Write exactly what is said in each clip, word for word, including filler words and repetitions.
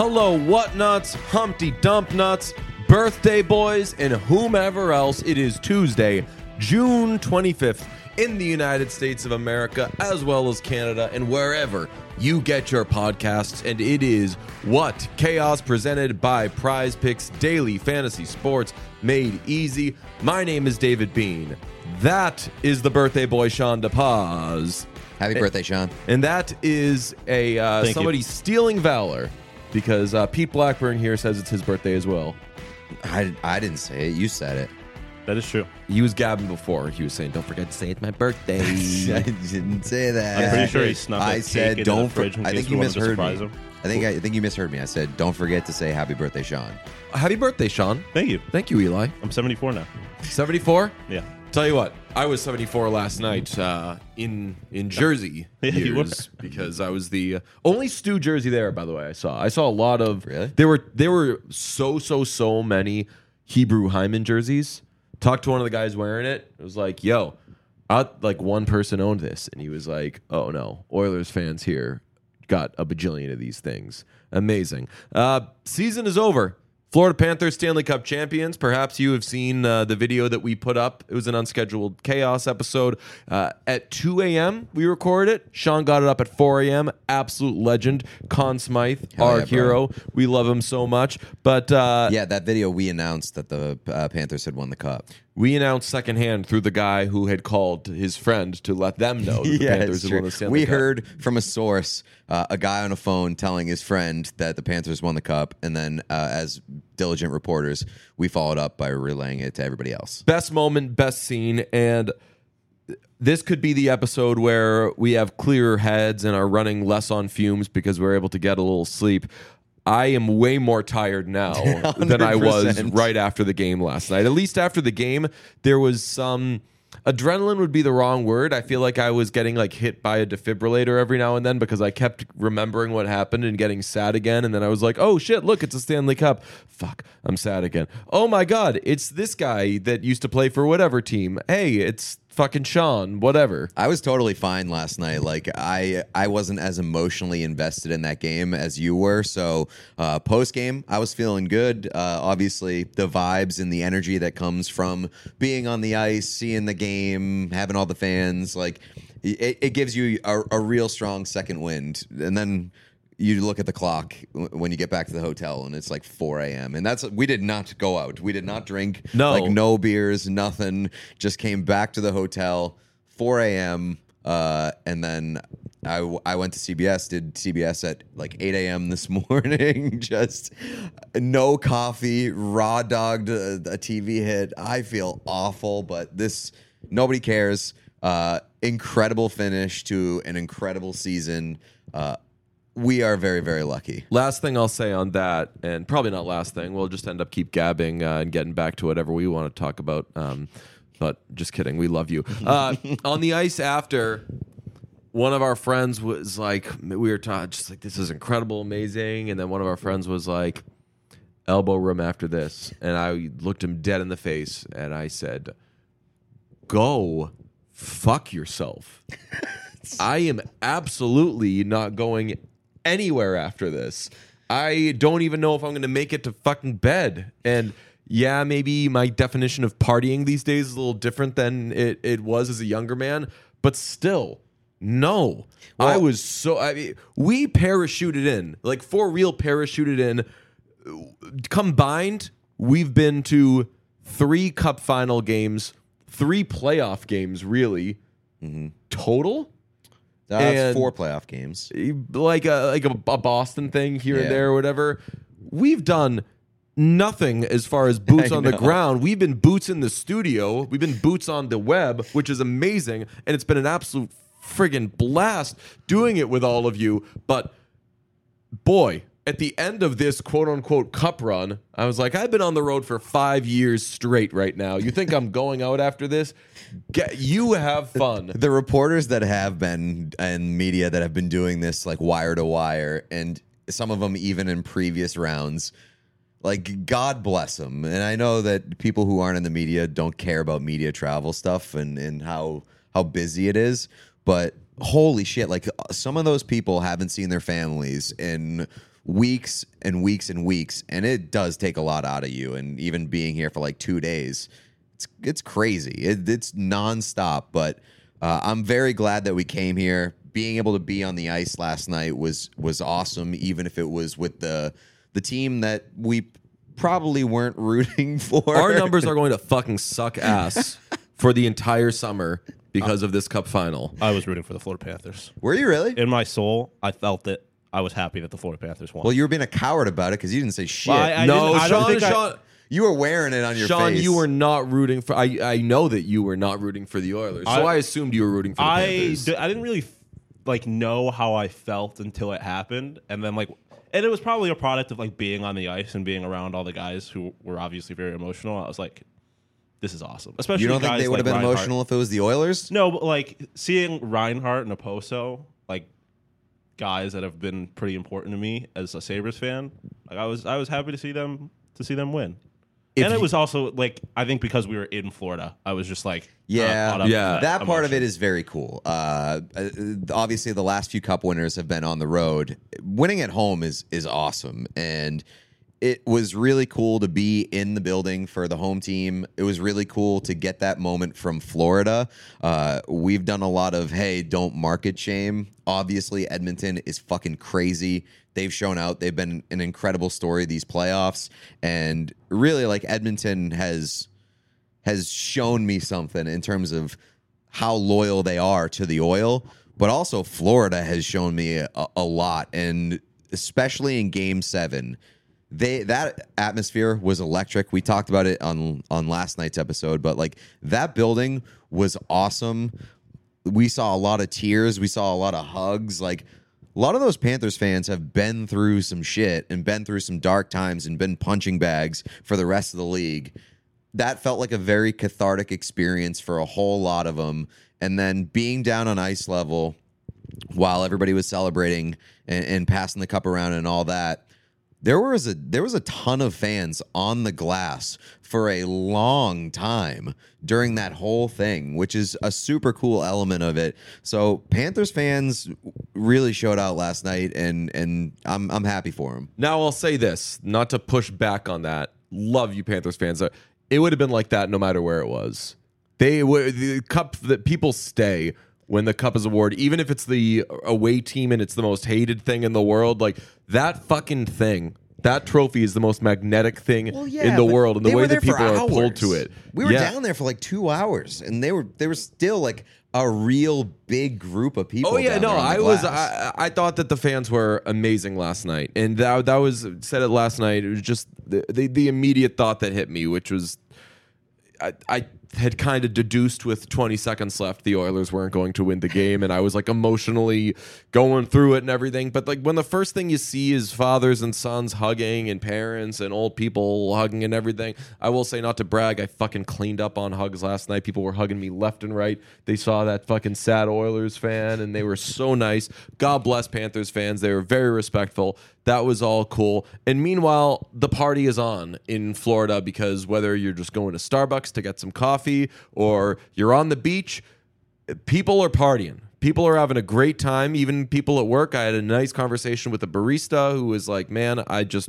Hello, what nuts, Humpty Dump nuts, birthday boys, and whomever else. It is Tuesday, June twenty-fifth in the United States of America, as well as Canada, and wherever you get your podcasts. And it is What Chaos, presented by Prize Picks Daily Fantasy Sports Made Easy. My name is David Bean. That is the birthday boy, Sean DePaz. Happy birthday, Sean. And that is a uh, somebody you. stealing valor, because uh, Pete Blackburn here says it's his birthday as well. I, I didn't say it. You said it. That is true. He was gabbing before. He was saying, don't forget to say it's my birthday. I didn't say that. I'm pretty sure he snuck I a said, cake don't in the fridge for- in I case think we you wanted to misheard me. surprise him. I think I, I think you misheard me. I said, don't forget to say happy birthday, Sean. Happy birthday, Sean. Thank you. Thank you, Eli. I'm seventy-four now. seventy-four? Yeah. Tell you what, I was seventy-four last night uh, in in Jersey Yeah, you years, because I was the uh, only Stu jersey there. By the way, I saw I saw a lot of. Really? There were there were so so so many Hebrew Hyman jerseys. Talked to one of the guys wearing it. It was like, yo, I, like one person owned this, and he was like, oh no, Oilers fans here got a bajillion of these things. Amazing. Uh, season is over. Florida Panthers Stanley Cup champions. Perhaps you have seen uh, the video that we put up. It was an unscheduled chaos episode. Uh, at two a.m. we recorded it. Sean got it up at four a.m. Absolute legend. Conn Smythe, Hell our yeah, bro. hero. We love him so much. But uh, Yeah, that video, we announced that the uh, Panthers had won the cup. we announced secondhand through the guy who had called his friend to let them know that the Yeah, Panthers it's had true. won the Stanley We Cup. heard from a source, uh, a guy on a phone telling his friend that the Panthers won the cup, and then uh, as diligent reporters, we followed up by relaying it to everybody else. Best moment, best scene, and this could be the episode where we have clearer heads and are running less on fumes because we're able to get a little sleep. I am way more tired now than I was one hundred percent. right after the game last night. At least after the game, there was some adrenaline would be the wrong word. I feel like I was getting like hit by a defibrillator every now and then because I kept remembering what happened and getting sad again. And then I was like, oh shit, look, it's a Stanley Cup. Fuck, I'm sad again. Oh my God, it's this guy that used to play for whatever team. Hey, it's fucking Sean, whatever. I was totally fine last night. Like I, I wasn't as emotionally invested in that game as you were. So uh, post game, I was feeling good. Uh, obviously, the vibes and the energy that comes from being on the ice, seeing the game, having all the fans, like it, it gives you a, a real strong second wind. And then you look at the clock when you get back to the hotel, and it's like four a.m. And that's we did not go out. We did not drink. No. like no beers, nothing. Just came back to the hotel, four a.m. Uh, and then I, I went to C B S, did C B S at like eight a.m. this morning. Just no coffee, raw dogged a, a T V hit. I feel awful, but this nobody cares. Uh, incredible finish to an incredible season. Uh, we are very, very lucky. Last thing I'll say on that, and probably not last thing, we'll just end up keep gabbing uh, and getting back to whatever we want to talk about. Um, but just kidding, we love you. Uh, on the ice after, one of our friends was like, we were talking, just like, this is incredible, amazing. And then one of our friends was like, elbow room after this. And I looked him dead in the face and I said, go fuck yourself. I am absolutely not going anywhere after this. I don't even know if I'm going to make it to fucking bed. And yeah, maybe my definition of partying these days is a little different than it, it was as a younger man, but still, no. Well- I was so, I mean, we parachuted in, like for real parachuted in. Combined, we've been to three cup final games, three playoff games, really, Mm-hmm. total. That's And- four playoff games. Like a like a, a Boston thing here Yeah. and there or whatever. We've done nothing as far as boots I on the know. ground. We've been boots in the studio. We've been boots on the web, which is amazing, and it's been an absolute friggin' blast doing it with all of you. But boy, at the end of this quote unquote cup run, I was like, I've been on the road for five years straight right now. You think I'm going out after this? Get, you have fun. The reporters that have been and media that have been doing this like wire to wire, and some of them even in previous rounds, like God bless them. And I know that people who aren't in the media don't care about media travel stuff and, and how how busy it is, but holy shit, like some of those people haven't seen their families in weeks and weeks and weeks, and it does take a lot out of you. And even being here for like two days, it's it's crazy. It, it's nonstop. But uh, I'm very glad that we came here. Being able to be on the ice last night was was awesome, even if it was with the the team that we probably weren't rooting for. Our numbers are going to fucking suck ass for the entire summer because of this cup final. I was rooting for the Florida Panthers. Were you really? In my soul, I felt that I was happy that the Florida Panthers won. Well, you were being a coward about it because you didn't say shit. Well, I- I no, didn't- I don't Sean, think I- Sean, you were wearing it on your Sean, face. you were not rooting for. I I know that you were not rooting for the Oilers, so I, I- assumed you were rooting for the I, Panthers. d- I didn't really like know how I felt until it happened, and then like, and it was probably a product of like being on the ice and being around all the guys who were obviously very emotional. I was like, this is awesome. Especially You don't think guys they would have like been Reinhart. emotional if it was the Oilers? No, but like seeing Reinhart and Oposo, like guys that have been pretty important to me as a Sabres fan, like I was I was happy to see them to see them win. If and it you- was also like I think because we were in Florida, I was just like Yeah, caught up yeah. in That part of emotion. it is very cool. Uh, uh, obviously, the last few Cup winners have been on the road. Winning at home is is awesome, and it was really cool to be in the building for the home team. It was really cool to get that moment from Florida. Uh, we've done a lot of hey, don't market shame. Obviously, Edmonton is fucking crazy. They've shown out. They've been an incredible story these playoffs, and really, like Edmonton has. has shown me something in terms of how loyal they are to the Oil, but also Florida has shown me a, a lot, and especially in Game Seven, they that atmosphere was electric. We talked about it on on last night's episode, but like that building was awesome. We saw a lot of tears. We saw a lot of hugs. Like a lot of those Panthers fans have been through some shit and been through some dark times and been punching bags for the rest of the league. That felt like a very cathartic experience for a whole lot of them. And then being down on ice level while everybody was celebrating and, and passing the cup around and all that, there was a there was a ton of fans on the glass for a long time during that whole thing, which is a super cool element of it. So Panthers fans really showed out last night, and and I'm I'm happy for them. Now I'll say this, not to push back on that. Love you, Panthers fans. It would have been like that no matter where it was. They would the cup that people stay when the cup is awarded, even if it's the away team and it's the most hated thing in the world. Like that fucking thing, that trophy is the most magnetic thing in the but world, and the they way were there that people for are pulled hours. to it. We were Yeah. down there for like two hours, and they were they were still like a real big group of people. Oh yeah, down no, there on the I was. glass. I, I thought that the fans were amazing last night, and that that was said it last night. It was just the the, the immediate thought that hit me, which was, I, I had kind of deduced with twenty seconds left the Oilers weren't going to win the game, and I was like emotionally going through it and everything. But like when the first thing you see is fathers and sons hugging and parents and old people hugging and everything, I will say, not to brag, I fucking cleaned up on hugs last night. People were hugging me left and right. They saw that fucking sad Oilers fan, and they were so nice. God bless Panthers fans. They were very respectful. That was all cool. And meanwhile, the party is on in Florida, because whether you're just going to Starbucks to get some coffee or you're on the beach, people are partying. People are having a great time. Even people at work. I had a nice conversation with a barista who was like, man, I just...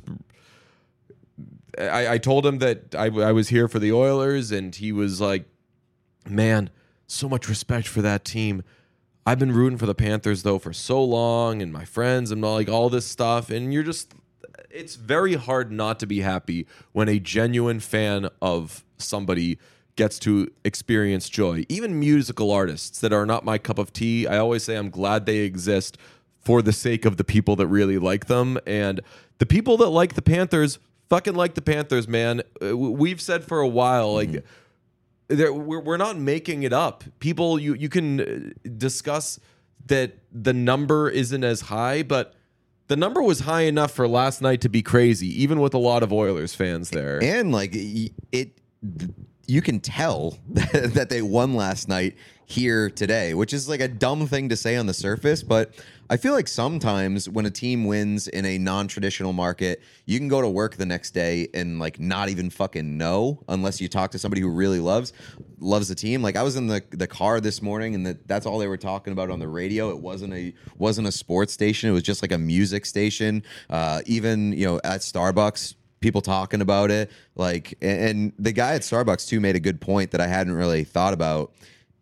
I, I told him that I, I was here for the Oilers, and he was like, man, so much respect for that team. I've been rooting for the Panthers, though, for so long, and my friends and like all this stuff. And you're just, it's very hard not to be happy when a genuine fan of somebody gets to experience joy. Even musical artists that are not my cup of tea, I always say I'm glad they exist for the sake of the people that really like them. And the people that like the Panthers fucking like the Panthers, man. Uh, We've said for a while, like, mm-hmm. There, we're, we're not making it up. People, you, you can discuss that the number isn't as high, but the number was high enough for last night to be crazy, even with a lot of Oilers fans there. And like it, you can tell that they won last night here today, which is like a dumb thing to say on the surface, but I feel like sometimes when a team wins in a non-traditional market, you can go to work the next day and like not even fucking know unless you talk to somebody who really loves loves the team. Like I was in the the car this morning and that that's all they were talking about on the radio. It wasn't a wasn't a sports station. It was just like a music station. Uh, even, you know, at Starbucks, people talking about it. Like, and the guy at Starbucks too made a good point that I hadn't really thought about.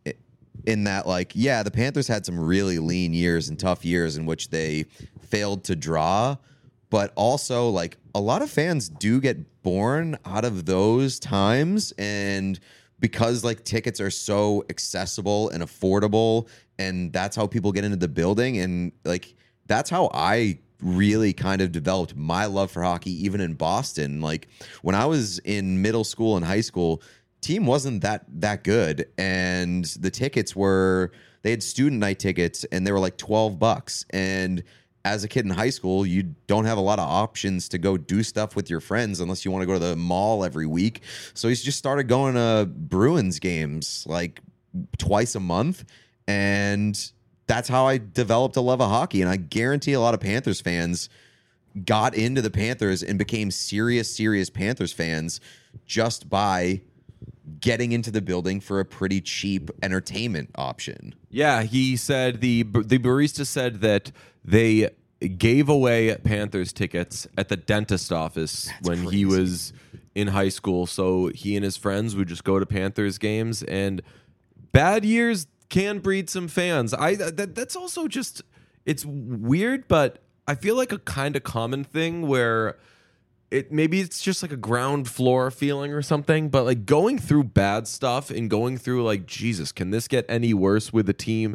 In that, like, yeah, the Panthers had some really lean years and tough years in which they failed to draw, but also, like, a lot of fans do get born out of those times, and because, like, tickets are so accessible and affordable, and that's how people get into the building, and, like, that's how I really kind of developed my love for hockey, even in Boston. Like, when I was in middle school and high school, team wasn't that that good, and the tickets were they had student night tickets and they were like twelve bucks, and as a kid in high school you don't have a lot of options to go do stuff with your friends unless you want to go to the mall every week. So he's just started going to Bruins games like twice a month, and that's how I developed a love of hockey. And I guarantee a lot of Panthers fans got into the Panthers and became serious serious Panthers fans just by getting into the building for a pretty cheap entertainment option. Yeah, he said the the barista said that they gave away Panthers tickets at the dentist office That's when crazy. he was in high school. So he and his friends would just go to Panthers games, and bad years can breed some fans. I that, that's also just it's weird, but I feel like a kind of common thing where it maybe it's just like a ground floor feeling or something, but like going through bad stuff and going through like, Jesus, can this get any worse with the team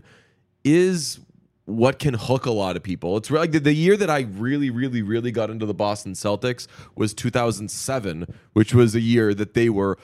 is what can hook a lot of people. It's like the, the year that I really, really, really got into the Boston Celtics was two thousand seven, which was a year that they were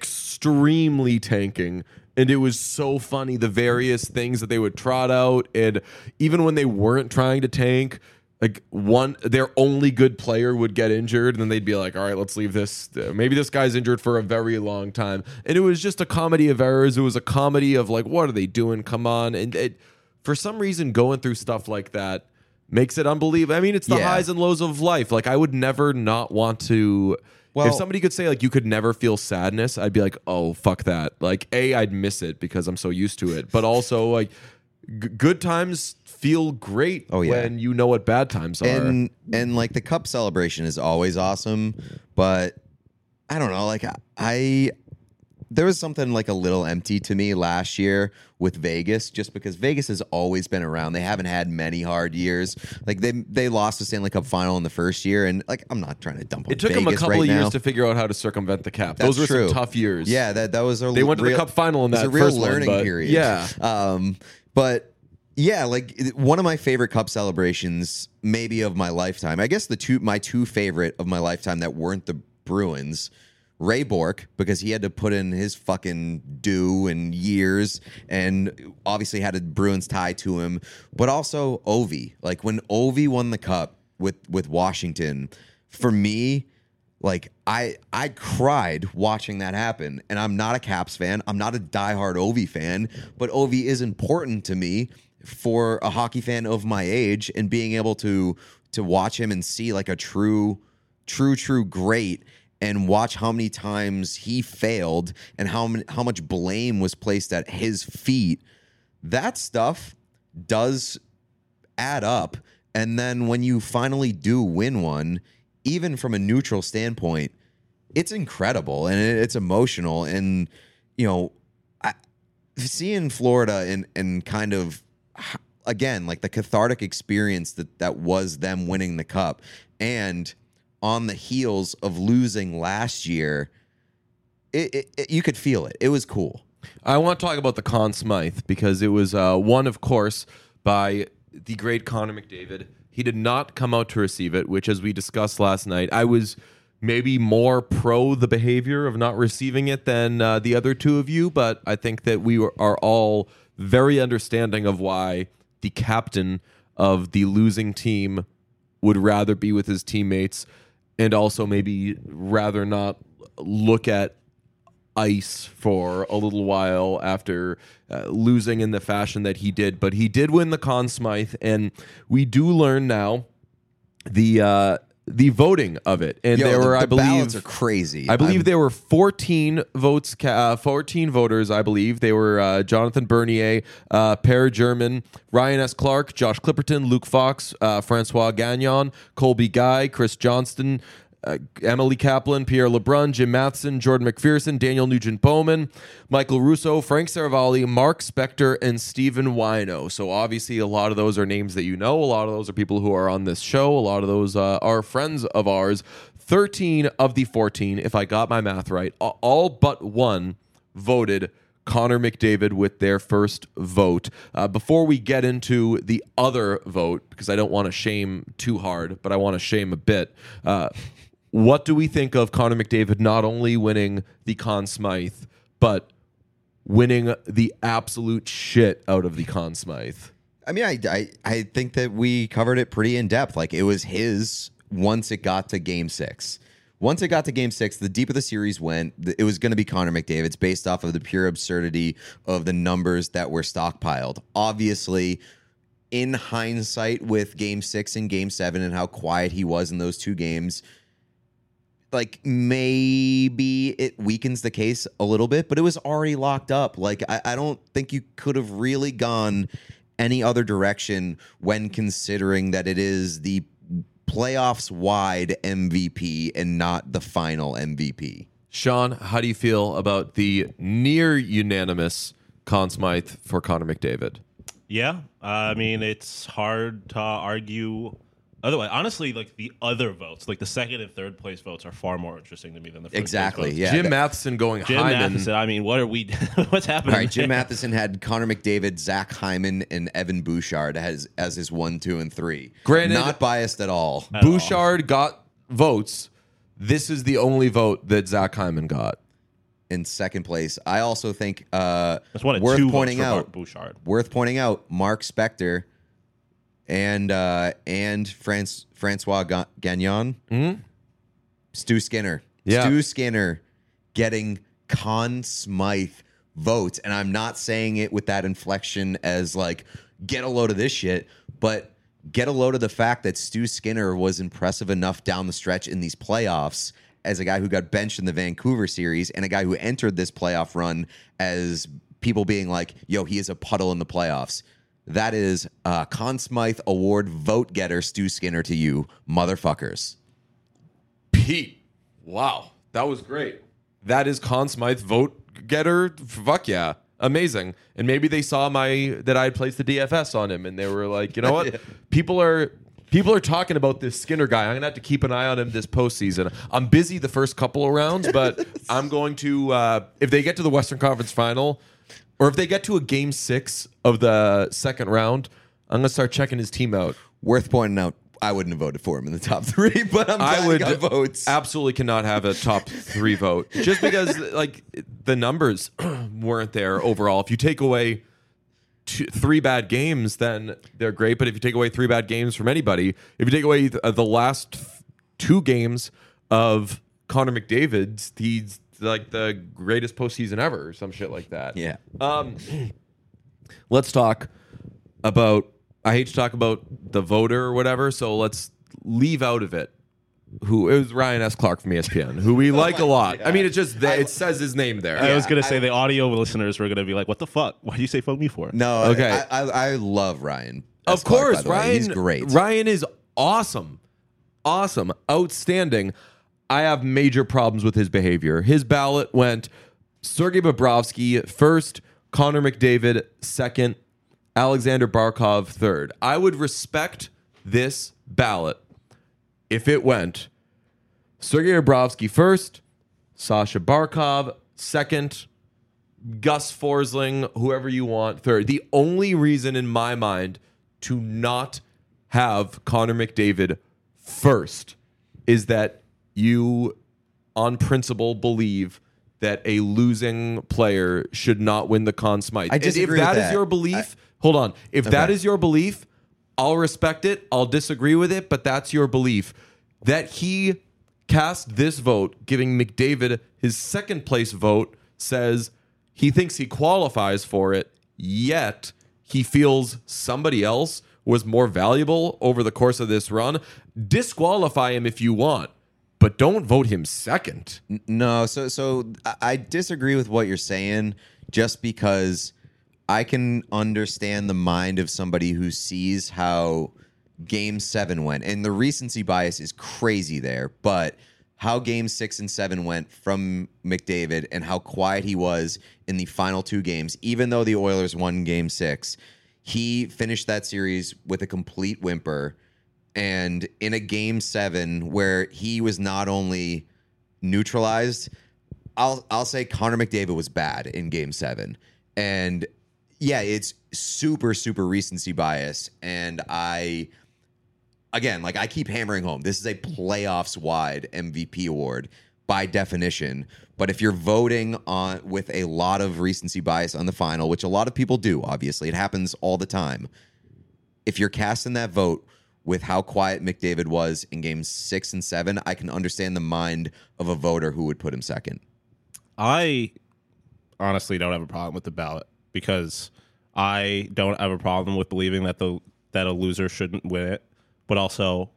extremely tanking. And it was so funny, the various things that they would trot out. And even when they weren't trying to tank, like one, their only good player would get injured, and then they'd be like, all right, let's leave this. Maybe this guy's injured for a very long time. And it was just a comedy of errors. It was a comedy of like, what are they doing? Come on. And it, for some reason, going through stuff like that makes it unbelievable. I mean, it's the Yeah. highs and lows of life. Like, I would never not want to. Well- if somebody could say like you could never feel sadness, I'd be like, oh, fuck that. Like, A, I'd miss it because I'm so used to it. But also, like, g- good times feel great Oh, yeah. when you know what bad times are. And and like the cup celebration is always awesome, but I don't know, like I, I there was something like a little empty to me last year with Vegas, just because Vegas has always been around. They haven't had many hard years. Like they they lost the Stanley Cup final in the first year, and like I'm not trying to dump on it took Vegas them a couple right of years now. to figure out how to circumvent the cap. That's Those were true. some tough years. Yeah, that that was a They went to the real, cup final in it was that a real first one, learning but- period. yeah. Um, but yeah, like it- one of my favorite cup celebrations, maybe of my lifetime. I guess the two my two favorite of my lifetime that weren't the Bruins. Ray Bork, because he had to put in his fucking due and years, and obviously had a Bruins tie to him. But also Ovi, like when Ovi won the cup with with Washington, for me, like I I cried watching that happen. And I'm not a Caps fan. I'm not a diehard Ovi fan, but Ovi is important to me for a hockey fan of my age, and being able to to watch him and see like a true, true, true great, and watch how many times he failed and how many, how much blame was placed at his feet. That stuff does add up. And then when you finally do win one, even from a neutral standpoint, it's incredible and it- it's emotional. And, you know, I, seeing Florida and, and kind of, again, like the cathartic experience that, that was them winning the cup, and on the heels of losing last year, it, it, it, you could feel it. It was cool. I want to talk about the Conn Smythe because it was uh, won, of course, by the great Connor McDavid. He did not come out to receive it, which, as we discussed last night, I was maybe more pro the behavior of not receiving it than uh, the other two of you, but I think that we were, are all very understanding of why the captain of the losing team would rather be with his teammates, and also maybe rather not look at ice for a little while after uh, losing in the fashion that he did. But he did win the Conn Smythe, and we do learn now the uh, the voting of it. And Yo, there the, were, the I believe, ballots are crazy. I believe I'm- there were fourteen votes, ca- uh, fourteen voters, I believe. They were uh, Jonathan Bernier, uh, Per German, Ryan S. Clark, Josh Clipperton, Luke Fox, uh, Francois Gagnon, Colby Guy, Chris Johnston, uh, Emily Kaplan, Pierre Lebrun, Jim Matheson, Jordan McPherson, Daniel Nugent-Bowman, Michael Russo, Frank Saravalli, Mark Spector, and Stephen Wino. So obviously a lot of those are names that you know. A lot of those are people who are on this show. A lot of those uh, are friends of ours. thirteen of the fourteen, if I got my math right, all but one voted Connor McDavid with their first vote. Uh, before we get into the other vote, because I don't want to shame too hard, but I want to shame a bit, uh, what do we think of Connor McDavid not only winning the Conn Smythe, but winning the absolute shit out of the Conn Smythe? I mean, I, I I think that we covered it pretty in depth. Like, it was his once it got to game six. Once it got to game six, the deeper the series went, it was going to be Connor McDavid's based off of the pure absurdity of the numbers that were stockpiled. Obviously, in hindsight with game six and game seven and how quiet he was in those two games, like, maybe it weakens the case a little bit, but it was already locked up. Like, I, I don't think you could have really gone any other direction when considering that it is the playoffs wide M V P and not the final M V P. Sean, how do you feel about the near unanimous Conn Smythe for Connor McDavid? Yeah, uh, I mean, it's hard to argue otherwise. Honestly, like the other votes, like the second and third place votes, are far more interesting to me than the first Exactly, place votes. yeah. Jim that- Matheson going Jim Hyman. Matheson. I mean, what are we? What's happening? All right, Jim there? Matheson had Connor McDavid, Zach Hyman, and Evan Bouchard as as his one, two, and three. Granted- not biased at all. At all. Bouchard got votes. This is the only vote that Zach Hyman got. In second place, I also think uh, That's one of worth two pointing votes for out. Bouchard. Worth pointing out, Mark Spector and uh, and France, Francois Ga- Gagnon, Stu Skinner, Yeah. Stu Skinner getting Conn Smythe votes, and I'm not saying it with that inflection as like get a load of this shit, but get a load of the fact that Stu Skinner was impressive enough down the stretch in these playoffs as a guy who got benched in the Vancouver series and a guy who entered this playoff run as people being like, yo, he is a puddle in the playoffs. That is uh, Conn Smythe Award vote getter Stu Skinner to you, motherfuckers. Pete, wow, that was great. That is Conn Smythe vote getter. Fuck yeah, amazing. And maybe they saw my that I had placed the D F S on him, and they were like, you know what, Yeah. people are people are talking about this Skinner guy. I'm gonna have to keep an eye on him this postseason. I'm busy the first couple of rounds, but I'm going to uh, if they get to the Western Conference Final, or if they get to a game six of the second round, I'm gonna start checking his team out. Worth pointing out, I wouldn't have voted for him in the top three, but I'm glad I would he got votes. absolutely cannot have a top three vote just because like the numbers weren't there overall. If you take away two, three bad games, then they're great. But if you take away three bad games from anybody, if you take away the, uh, the last th- two games of Connor McDavid's, he's like the greatest postseason ever, or some shit like that. Yeah. Um, let's talk about. I hate to talk about the voter or whatever, so let's leave out of it. Who it was Ryan S. Clark from E S P N, who we like a lot. I mean, it just that it says his name there. I was gonna I- say the audio listeners were gonna be like, "What the fuck? Why do you say fuck me for?" No, Okay. I, I, I love Ryan. Of S. Clark, by course, the way. Ryan. He's great. Ryan is awesome, awesome, outstanding. I have major problems with his behavior. His ballot went Sergei Bobrovsky first, Connor McDavid second, Alexander Barkov third. I would respect this ballot if it went Sergei Bobrovsky first, Sasha Barkov second, Gus Forsling, whoever you want, third. The only reason in my mind to not have Connor McDavid first is that you, on principle, believe that a losing player should not win the Conn Smythe. I And disagree if that with is that. your belief, hold on. If that Okay. is your belief, I'll respect it. I'll disagree with it, but that's your belief. That he cast this vote, giving McDavid his second place vote, says he thinks he qualifies for it, yet he feels somebody else was more valuable over the course of this run, disqualify him if you want, but don't vote him second. No, so so I- I disagree with what you're saying just because I can understand the mind of somebody who sees how game seven went. And the recency bias is crazy there, but how game six and seven went from McDavid and how quiet he was in the final two games, even though the Oilers won game six, he finished that series with a complete whimper. And in a game seven where he was not only neutralized, I'll I'll say Connor McDavid was bad in game seven. And yeah, it's super, super recency bias. And I, again, like I keep hammering home, this is a playoffs wide M V P award by definition. But if you're voting on with a lot of recency bias on the final, which a lot of people do, obviously, it happens all the time. If you're casting that vote with how quiet McDavid was in games six and seven, I can understand the mind of a voter who would put him second. I honestly don't have a problem with the ballot because I don't have a problem with believing that the that a loser shouldn't win it, but also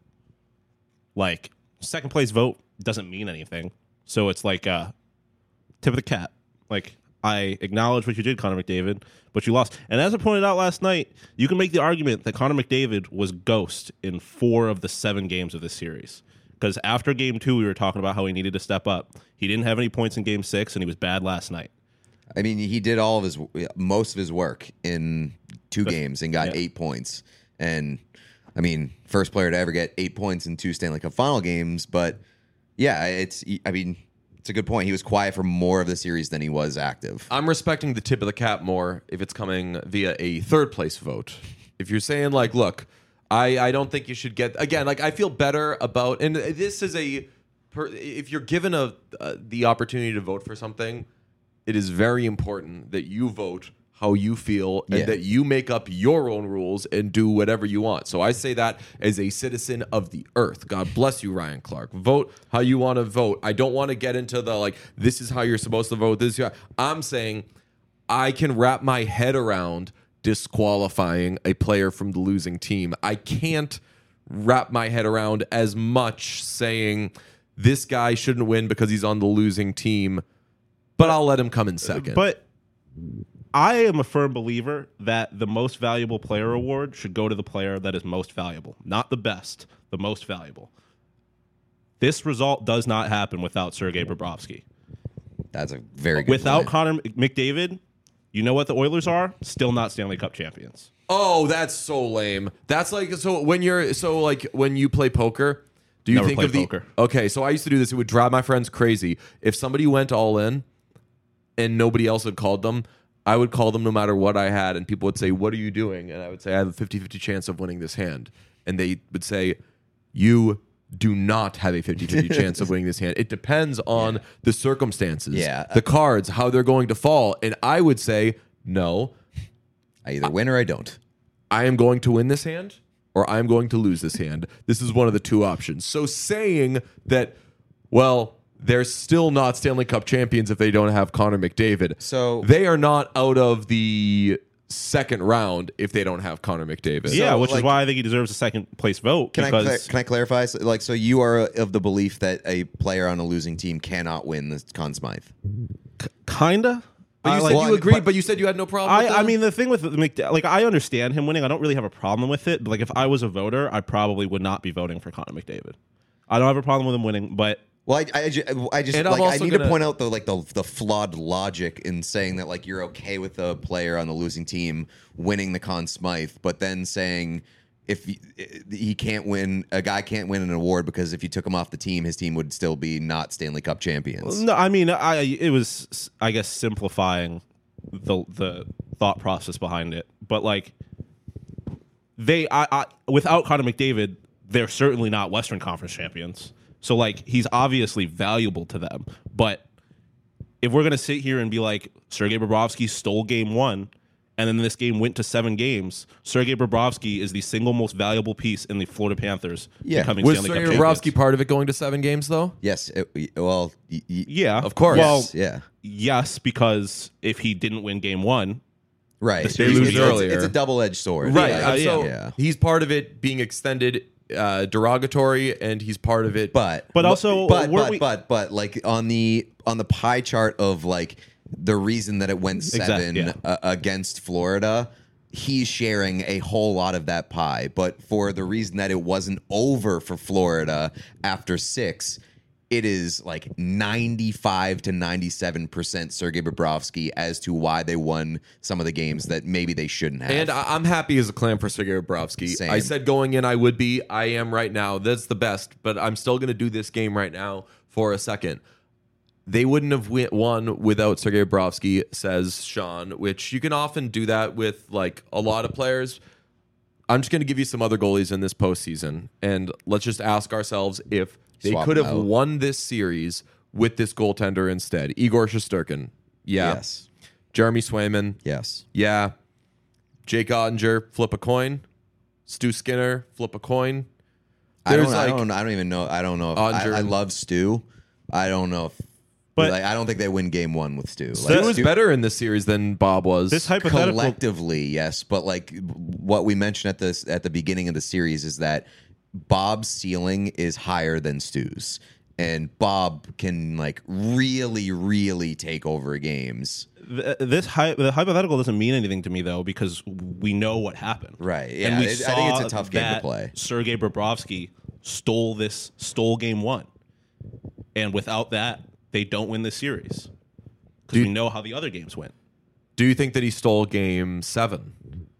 like second place vote doesn't mean anything. So it's like a tip of the cap. Like I acknowledge what you did, Connor McDavid, but you lost. And as I pointed out last night, you can make the argument that Connor McDavid was ghost in four of the seven games of this series. Because after game two, we were talking about how he needed to step up. He didn't have any points in game six, and he was bad last night. I mean, he did all of his most of his work in two games and got yeah. eight points. And I mean, first player to ever get eight points in two Stanley Cup final games. But yeah, it's I mean, it's a good point. He was quiet for more of the series than he was active. I'm respecting the tip of the cap more if it's coming via a third place vote. If you're saying like, look, I, I don't think you should get again. Like I feel better about, and this is a, per, if you're given a uh, the opportunity to vote for something, it is very important that you vote how you feel and Yeah. that you make up your own rules and do whatever you want. So I say that as a citizen of the earth. God bless you, Ryan Clark. Vote how you want to vote. I don't want to get into the like, this is how you're supposed to vote. This is how, I'm saying I can wrap my head around disqualifying a player from the losing team. I can't wrap my head around as much saying this guy shouldn't win because he's on the losing team, but I'll let him come in second. But I am a firm believer that the most valuable player award should go to the player that is most valuable, not the best, the most valuable. This result does not happen without Sergei Bobrovsky. That's a very good Without point. Connor McDavid, you know what the Oilers are? Still not Stanley Cup champions. Oh, that's so lame. That's like so when you're so like when you play poker, do you Never think played of the poker. Okay, so I used to do this. It would drive my friends crazy. If somebody went all in and nobody else had called them, I would call them no matter what I had, and people would say, "What are you doing?" And I would say, "I have a fifty-fifty chance of winning this hand." And they would say, "You do not have a fifty-fifty chance of winning this hand. It depends on Yeah. the circumstances, Yeah. the cards, how they're going to fall." And I would say, "No, I either win or I don't. I am going to win this hand or I'm going to lose this hand. This is one of the two options." So saying that, well, they're still not Stanley Cup champions if they don't have Connor McDavid. So- they are not out of the second round if they don't have Connor McDavid. yeah, which like- is why I think he deserves a second place vote. Can I because cla- can I clarify? So, like, so you are of the belief that a player on a losing team cannot win the Conn Smythe? kinda. But you I said like- you well, agreed, but- but you said you had no problem with I, that? I mean, the thing with McDavid, like, I understand him winning. I don't really have a problem with it. But, like, if I was a voter, I probably would not be voting for Connor McDavid. I don't have a problem with him winning, but Well, I, I, ju- I just And I'm like I also need gonna- to point out the like the the flawed logic in saying that like you're okay with a player on the losing team winning the Conn Smythe, but then saying if he, he can't win, a guy can't win an award because if you took him off the team, his team would still be not Stanley Cup champions. no, I mean, I it was, I guess, simplifying the the thought process behind it. But like, they, I, I without Connor McDavid, they're certainly not Western Conference champions. So like, he's obviously valuable to them. But if we're gonna sit here and be like, Sergei Bobrovsky stole game one, and then this game went to seven games, Sergei Bobrovsky is the single most valuable piece in the Florida Panthers Yeah. becoming Was Stanley Cup Sergei champions. Bobrovsky part of it going to seven games though? Yes. It, well, y- y- Yeah, Of course. Well, yes, yeah. yes, because if he didn't win game one, Right. The series lose it's, earlier. It's a double-edged sword. Right. Yeah, uh, yeah. so Yeah. he's part of it being extended uh, derogatory, and he's part of it. But But also, but weren't but, we- but but like on the on the pie chart of like the reason that it went seven yeah. uh, against Florida, he's sharing a whole lot of that pie. But for the reason that it wasn't over for Florida after six, it is like ninety-five to ninety-seven percent Sergei Bobrovsky as to why they won some of the games that maybe they shouldn't have. And I- I'm happy as a clam for Sergei Bobrovsky. Same. I said going in I would be. I am right now. That's the best. But I'm still going to do this game right now for a second. They wouldn't have wi- won without Sergei Bobrovsky, says Sean, which you can often do that with like a lot of players. I'm just going to give you some other goalies in this postseason. And let's just ask ourselves if they Swap could have them out. won this series with this goaltender instead. Igor Shesterkin. Yeah. Yes. Jeremy Swayman. Yes. Yeah. Jake Ottinger, flip a coin. Stu Skinner, flip a coin. I don't, There's I like- don't. I don't even know. I don't know. If, Andre- I, I love Stu. I don't know if. But- like, I don't think they win game one with Stu. Stu Like, was Stu- better in this series than Bob was. this hypothetical. collectively, yes, but like what we mentioned at this at the beginning of the series is that Bob's ceiling is higher than Stu's, and Bob can like really, really take over games. Th- this hy- the hypothetical doesn't mean anything to me though, because we know what happened. Right, yeah, And we it- I saw think it's a tough game to that play. Sergei Bobrovsky stole this stole game one, and without that, they don't win this series because we know how the other games went. Do you think that he stole game seven?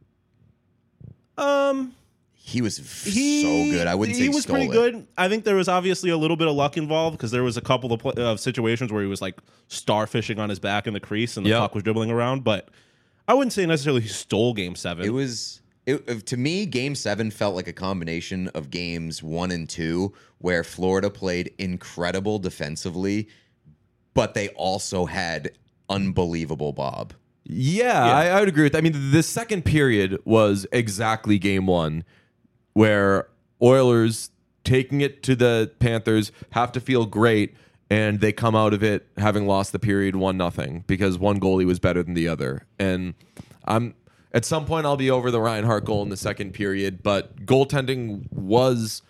Um, He was f- he so good. I wouldn't say he was stole pretty it. good. I think there was obviously a little bit of luck involved because there was a couple of, pl- of situations where he was like starfishing on his back in the crease and the Yep. puck was dribbling around. But I wouldn't say necessarily he stole Game Seven. It was it, to me. Game seven felt like a combination of games one and two, where Florida played incredible defensively, but they also had unbelievable Bob. Yeah, I, I would agree with that. I mean, the second period was exactly game one, where Oilers taking it to the Panthers have to feel great, and they come out of it having lost the period one nothing because one goalie was better than the other. And I'm at some point I'll be over the Reinhart goal in the second period, but goaltending was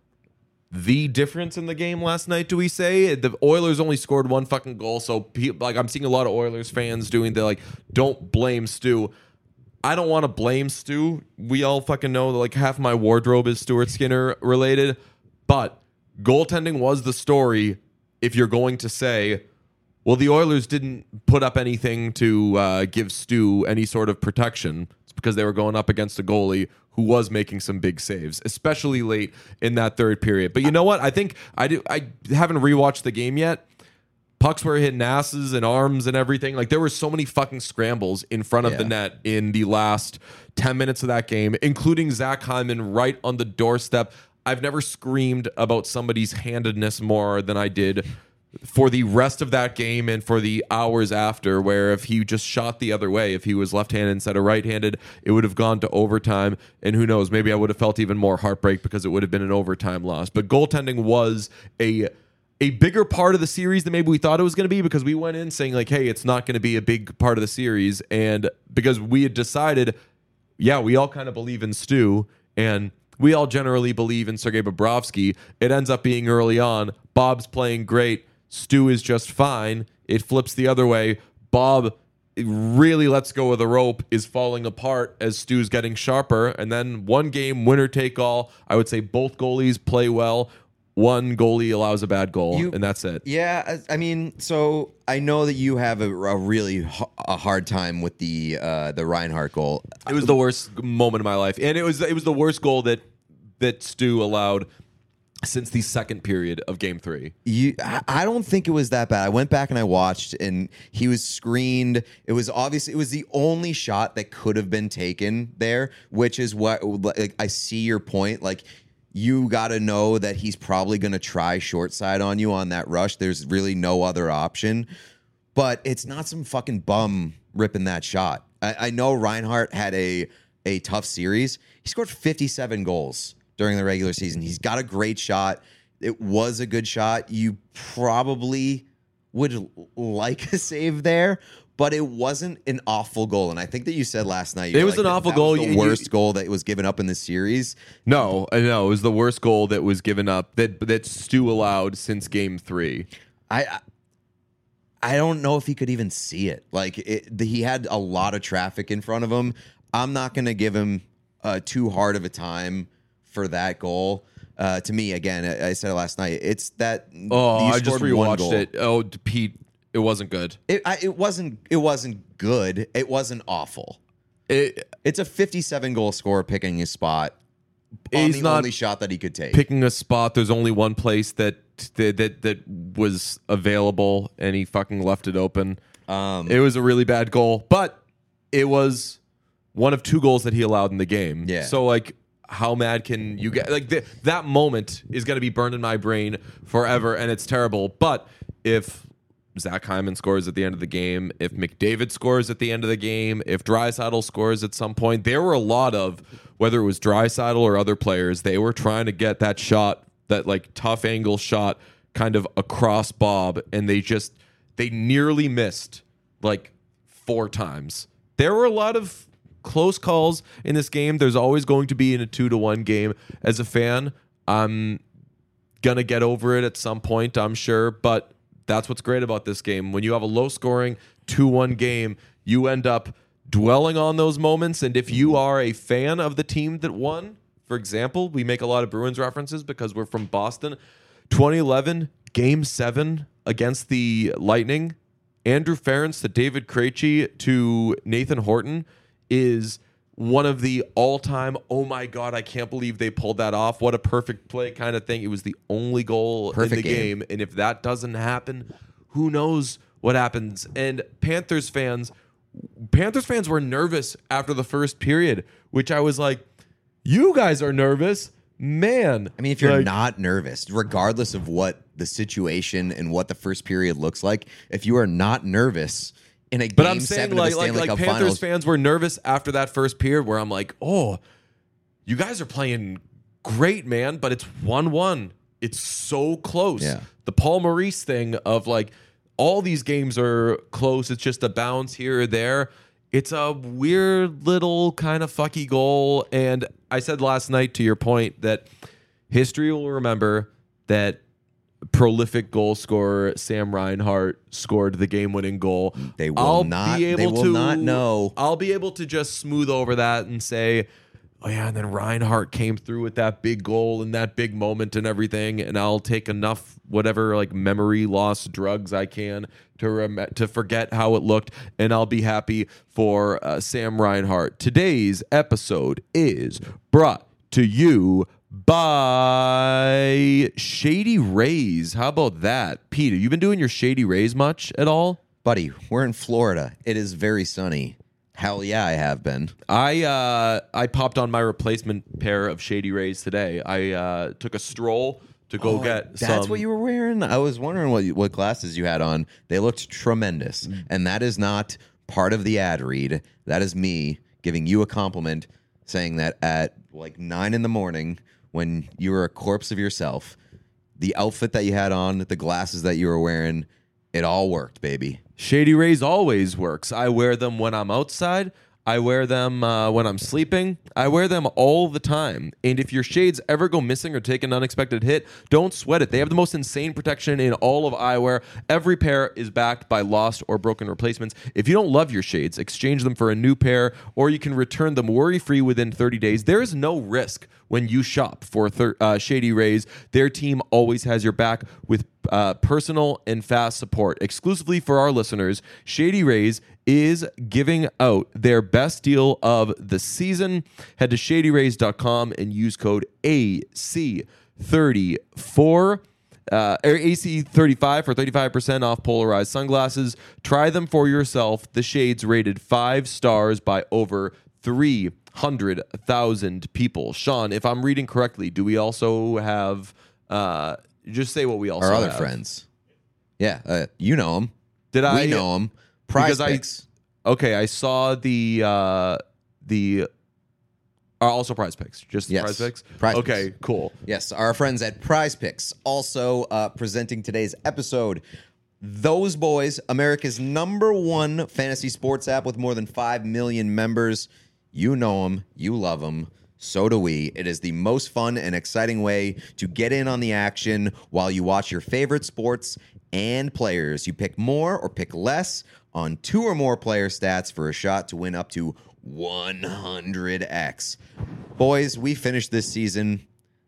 the difference in the game last night. Do we say the Oilers only scored one fucking goal? So pe- like I'm seeing a lot of Oilers fans doing the like, don't blame Stu. I don't want to blame Stu. We all fucking know that like half my wardrobe is Stuart Skinner related, but goaltending was the story. If you're going to say, well, the Oilers didn't put up anything to uh, give Stu any sort of protection, it's because they were going up against a goalie who was making some big saves, especially late in that third period. But you know what? I think I do. I haven't rewatched the game yet. Pucks were hitting asses and arms and everything. Like there were so many fucking scrambles in front of Yeah. the net in the last ten minutes of that game, including Zach Hyman right on the doorstep. I've never screamed about somebody's handedness more than I did for the rest of that game and for the hours after, where if he just shot the other way, if he was left-handed instead of right-handed, it would have gone to overtime. And who knows, maybe I would have felt even more heartbreak because it would have been an overtime loss. But goaltending was a a bigger part of the series than maybe we thought it was going to be, because we went in saying like, hey, it's not going to be a big part of the series. And because we had decided, yeah, we all kind of believe in Stu, and we all generally believe in Sergei Bobrovsky. It ends up being early on, Bob's playing great, Stu is just fine. It flips the other way. Bob really lets go of the rope, is falling apart as Stu's getting sharper. And then one game, winner take all. I would say both goalies play well. One goalie allows a bad goal, You- and that's it. Yeah, I I mean, so I know that you have a, a really h- a hard time with the uh, the Reinhart goal. It was the worst moment of my life, and it was it was the worst goal that that Stu allowed since the second period of Game Three. You, I I don't think it was that bad. I went back and I watched, and he was screened. It was obvious. It was the only shot that could have been taken there, which is what like, I see your point. Like, you got to know that he's probably going to try short side on you on that rush. There's really no other option. But it's not some fucking bum ripping that shot. I, I know Reinhart had a a tough series. He scored fifty-seven goals during the regular season. He's got a great shot. It was a good shot. You probably would like a save there, but it wasn't an awful goal. And I think that you said last night, it was like, an awful that goal. Was the You, worst you, goal that was given up in the series. No, no, it was the worst goal that was given up that that Stu allowed since Game Three. I. I I don't know if he could even see it. Like it, the, he had a lot of traffic in front of him. I'm not going to give him uh, too hard of a time for that goal. Uh, to me, again, I, I said it last night. It's that. Oh, you I just scored one rewatched goal. it. Oh, Pete, it wasn't good. It, I, it wasn't. It wasn't good. It wasn't awful. It, It's a fifty-seven goal scorer picking his spot on He's the not only shot that he could take. picking a spot. There's only one place that that that, that was available, and he fucking left it open. Um, It was a really bad goal, but it was one of two goals that he allowed in the game. Yeah. So like, how mad can you get? Like th- that moment is going to be burned in my brain forever, and it's terrible. But if Zach Hyman scores at the end of the game, if McDavid scores at the end of the game, if Draisaitl scores at some point, there were a lot of, whether it was Draisaitl or other players, they were trying to get that shot, that like tough angle shot kind of across Bob, and they just, they nearly missed like four times. There were a lot of close calls in this game. There's always going to be in a two to one game. As a fan, I'm gonna get over it at some point, I'm sure, but that's what's great about this game. When you have a low scoring two one game, you end up dwelling on those moments. And if you are a fan of the team that won, for example, we make a lot of Bruins references because we're from Boston. twenty eleven, game seven against the Lightning, Andrew Ference to David Krejci to Nathan Horton is one of the all-time, oh my God, I can't believe they pulled that off. What a perfect play kind of thing. It was the only goal Perfect in the game. game. And if that doesn't happen, who knows what happens. And Panthers fans, Panthers fans were nervous after the first period, which I was like, you guys are nervous? Man. I mean, if you're like, not nervous, regardless of what the situation and what the first period looks like, if you are not nervous in a But game I'm saying seven like of the like, Stanley like Cup Panthers Finals, fans were nervous after that first period where I'm like, oh, you guys are playing great, man, but it's one one. It's so close. Yeah. The Paul Maurice thing of like all these games are close. It's just a bounce here or there. It's a weird little kind of fucky goal. And I said last night, to your point, that history will remember that prolific goal scorer Sam Reinhart scored the game-winning goal. They will I'll not- Be they able will to, not know. I'll be able to just smooth over that and say, oh yeah, and then Reinhart came through with that big goal and that big moment and everything, and I'll take enough whatever like memory loss drugs I can to rem- to forget how it looked, and I'll be happy for uh, Sam Reinhart. Today's episode is brought to you by Shady Rays. How about that? Peter, you been doing your Shady Rays much at all? buddy, we're in Florida. It is very sunny. Hell yeah, I have been. I uh, I popped on my replacement pair of Shady Rays today. I uh, took a stroll to go Oh, get that's some. what you were wearing? I was wondering what you, what glasses you had on. They looked tremendous. Mm. And that is not part of the ad read. That is me giving you a compliment, saying that at like nine in the morning, when you were a corpse of yourself, the outfit that you had on, the glasses that you were wearing, it all worked, baby. Shady Rays always works. I wear them when I'm outside. I wear them uh, when I'm sleeping. I wear them all the time. And if your shades ever go missing or take an unexpected hit, don't sweat it. They have the most insane protection in all of eyewear. Every pair is backed by lost or broken replacements. If you don't love your shades, exchange them for a new pair, or you can return them worry-free within thirty days. There is no risk when you shop for thir- uh, Shady Rays. Their team always has your back with uh, personal and fast support. Exclusively for our listeners, Shady Rays is giving out their best deal of the season. Head to shady rays dot com and use code A C thirty-four uh, or A C thirty-five for thirty-five percent off polarized sunglasses. Try them for yourself. The shades rated five stars by over three hundred thousand people. Sean, if I'm reading correctly, do we also have, uh, just say what we also Our other have. friends. Yeah, uh, you know them. Did I We know them. Prize because I- picks. okay, I saw the uh, the uh, also Prize Picks, just the Yes. Prize Picks. Prize okay, Picks. cool. Yes, our friends at Prize Picks also uh, presenting today's episode. Those Boys, America's number one fantasy sports app with more than five million members. You know them, you love them. So do we. It is the most fun and exciting way to get in on the action while you watch your favorite sports and players. You pick more or pick less on two or more player stats for a shot to win up to one hundred x. Boys, we finished this season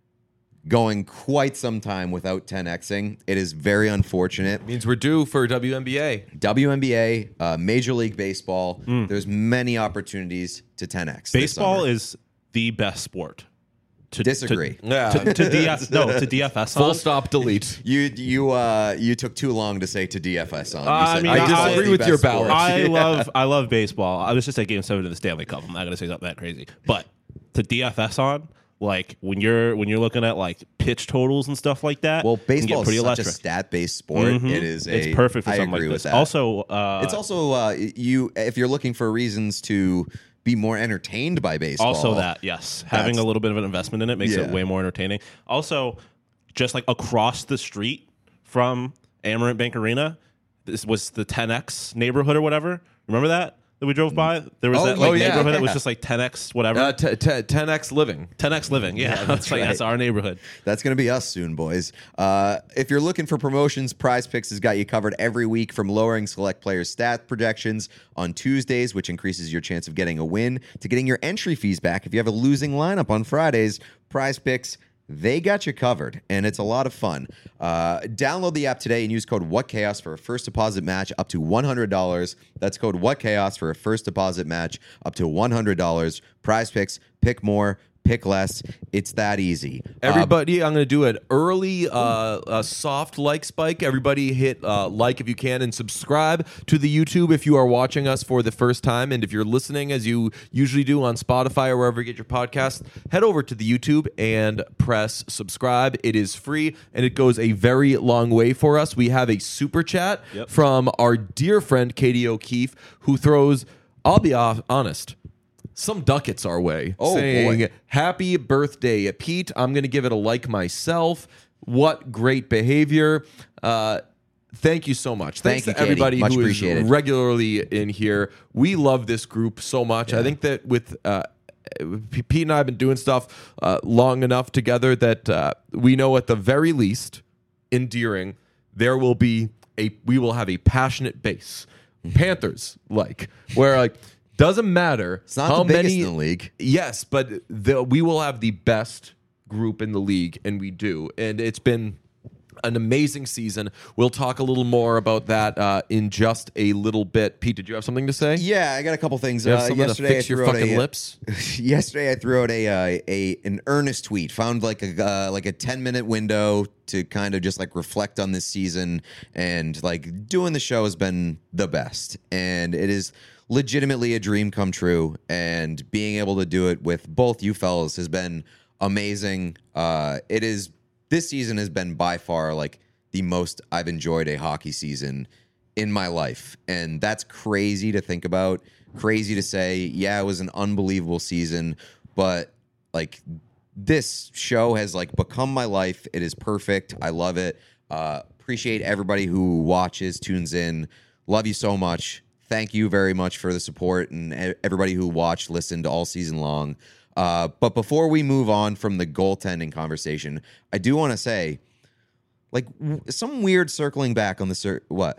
going quite some time without ten xing. It is very unfortunate. Means we're due for W N B A. W N B A, uh, Major League Baseball, there's many opportunities to ten x. this Baseball summer. is the best sport. To, Disagree. To, Yeah. to, to D F no to D F S Full on. stop, delete. You you uh you took too long to say to D F S on. You I said mean, I baseball is disagree the with best your sport. balance. I Yeah. love I love baseball. I was just at Game Seven of the Stanley Cup. I'm not gonna say something that crazy, but to D F S on, like when you're when you're looking at like pitch totals and stuff like that. Well, it can get baseball is pretty such electric. a stat-based sport. Mhm. It is a. It's perfect for I something agree like with this. that. Also, uh, it's also uh you if you're looking for reasons to be more entertained by baseball. Also, that yes, having That's- a little bit of an investment in it makes Yeah. it way more entertaining. Also, just like across the street from Amarant Bank Arena, this was the ten X neighborhood or whatever. Remember that that we drove by? There was Oh, that like oh, yeah. neighborhood that was Yeah. just like ten X whatever. Uh, t- t- ten x living. ten X living, yeah, that's that's like right. that's our neighborhood. That's going to be us soon, boys. Uh, if you're looking for promotions, Prize Picks has got you covered every week, from lowering select players' stat projections on Tuesdays, which increases your chance of getting a win, to getting your entry fees back if you have a losing lineup on Fridays. Prize Picks, they got you covered, and it's a lot of fun. Uh, download the app today and use code WhatChaos for a first deposit match up to one hundred dollars. That's code WhatChaos for a first deposit match up to one hundred dollars. Prize Picks, pick more, pick less. It's that easy. Uh, Everybody, I'm going to do an early, uh, a soft like spike. Everybody hit uh, like if you can, and subscribe to the YouTube if you are watching us for the first time. And if you're listening, as you usually do on Spotify or wherever you get your podcast, head over to the YouTube and press subscribe. It is free, and it goes a very long way for us. We have a super chat Yep. from our dear friend Katie O'Keefe, who throws, I'll be off, honest, some ducats our way, Oh, saying, boy. happy birthday, Pete. I'm going to give it a like myself. What great behavior. Uh, thank you so much. Thank Thanks you, to Katie. everybody Much who is appreciated. regularly in here. We love this group so much. I think that with uh, P- Pete and I have been doing stuff uh, long enough together that uh, we know at the very least, endearing, there will be a, we will have a passionate base. Panthers like, where like, doesn't matter It's not how the biggest many in the league. Yes, but the, we will have the best group in the league, and we do. And it's been an amazing season. We'll talk a little more about that uh, in just a little bit. Pete, did you have something to say? Yeah, I got a couple things. You have Uh, something to yesterday, fix I your threw out fucking a, lips? yesterday, I threw out a uh, a an earnest tweet. Found like a uh, like a ten minute window to kind of just like reflect on this season, and like doing the show has been the best, and it is legitimately a dream come true. And being able to do it with both you fellas has been amazing. Uh, it is this season has been by far like the most I've enjoyed a hockey season in my life. And that's crazy to think about, crazy to say. Yeah, it was an unbelievable season, but like this show has like become my life. It is perfect. I love it. Uh, appreciate everybody who watches, tunes in. Love you so much. Thank you very much for the support and e- everybody who watched, listened all season long. Uh, but before we move on from the goaltending conversation, I do want to say, like, w- some weird circling back on the cir- what?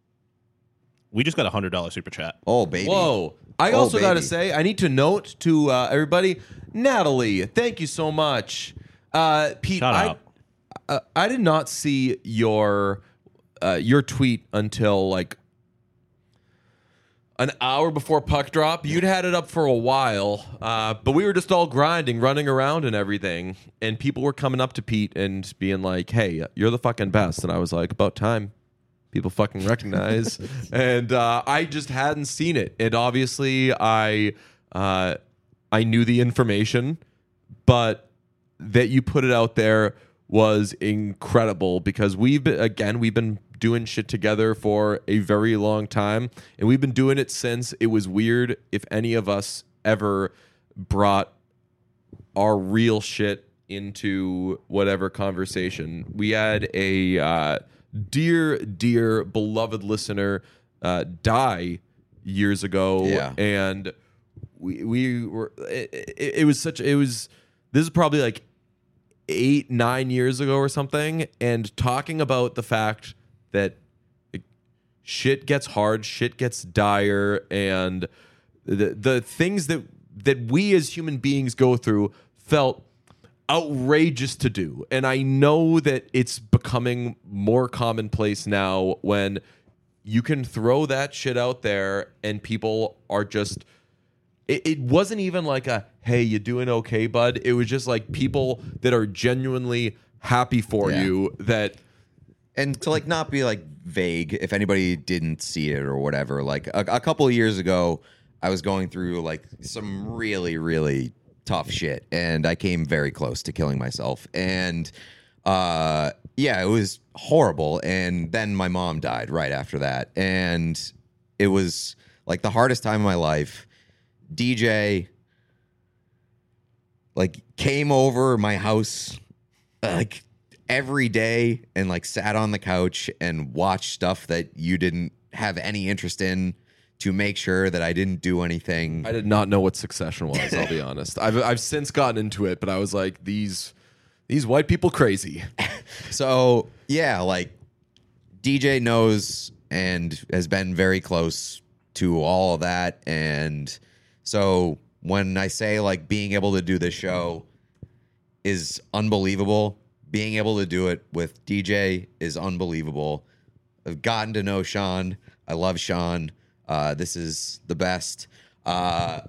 We just got a hundred dollar super chat. Oh, baby. Whoa. I Oh, also got to baby. say, I need to note to uh, everybody, Natalie, thank you so much. Uh, Pete, Shout I, out. uh, I did not see your uh, your tweet until like an hour before puck drop. You'd had it up for a while, uh, but we were just all grinding, running around and everything. And people were coming up to Pete and being like, hey, you're the fucking best. And I was like, about time. People fucking recognize. and uh, I just hadn't seen it. And obviously, I uh, I knew the information, but that you put it out there was incredible because we've been, again, we've been doing shit together for a very long time, and we've been doing it since it was weird if any of us ever brought our real shit into whatever conversation. We had a uh, dear, dear, beloved listener uh, die years ago, Yeah. and we we were. It, it, it was such. It was. This is probably like eight, nine years ago or something, and talking about the fact that like, shit gets hard, shit gets dire, and the the things that that we as human beings go through felt outrageous to do. And I know that it's becoming more commonplace now when you can throw that shit out there and people are just it, it wasn't even like a hey, you doing okay, bud? It was just like people that are genuinely happy for Yeah. you that And to like not be like vague, if anybody didn't see it or whatever, like a, a couple of years ago, I was going through like some really, really tough shit, and I came very close to killing myself. And uh, yeah, it was horrible. And then my mom died right after that, and it was like the hardest time of my life. D J like came over my house like every day and like sat on the couch and watched stuff that you didn't have any interest in to make sure that I didn't do anything. I did not know what Succession was, I'll be honest. I've I've since gotten into it, but I was like, these these white people crazy. So yeah, like D J knows and has been very close to all of that. And so when I say like being able to do this show is unbelievable, being able to do it with D J is unbelievable. I've gotten to know Sean. I love Sean. Uh, this is the best. Uh,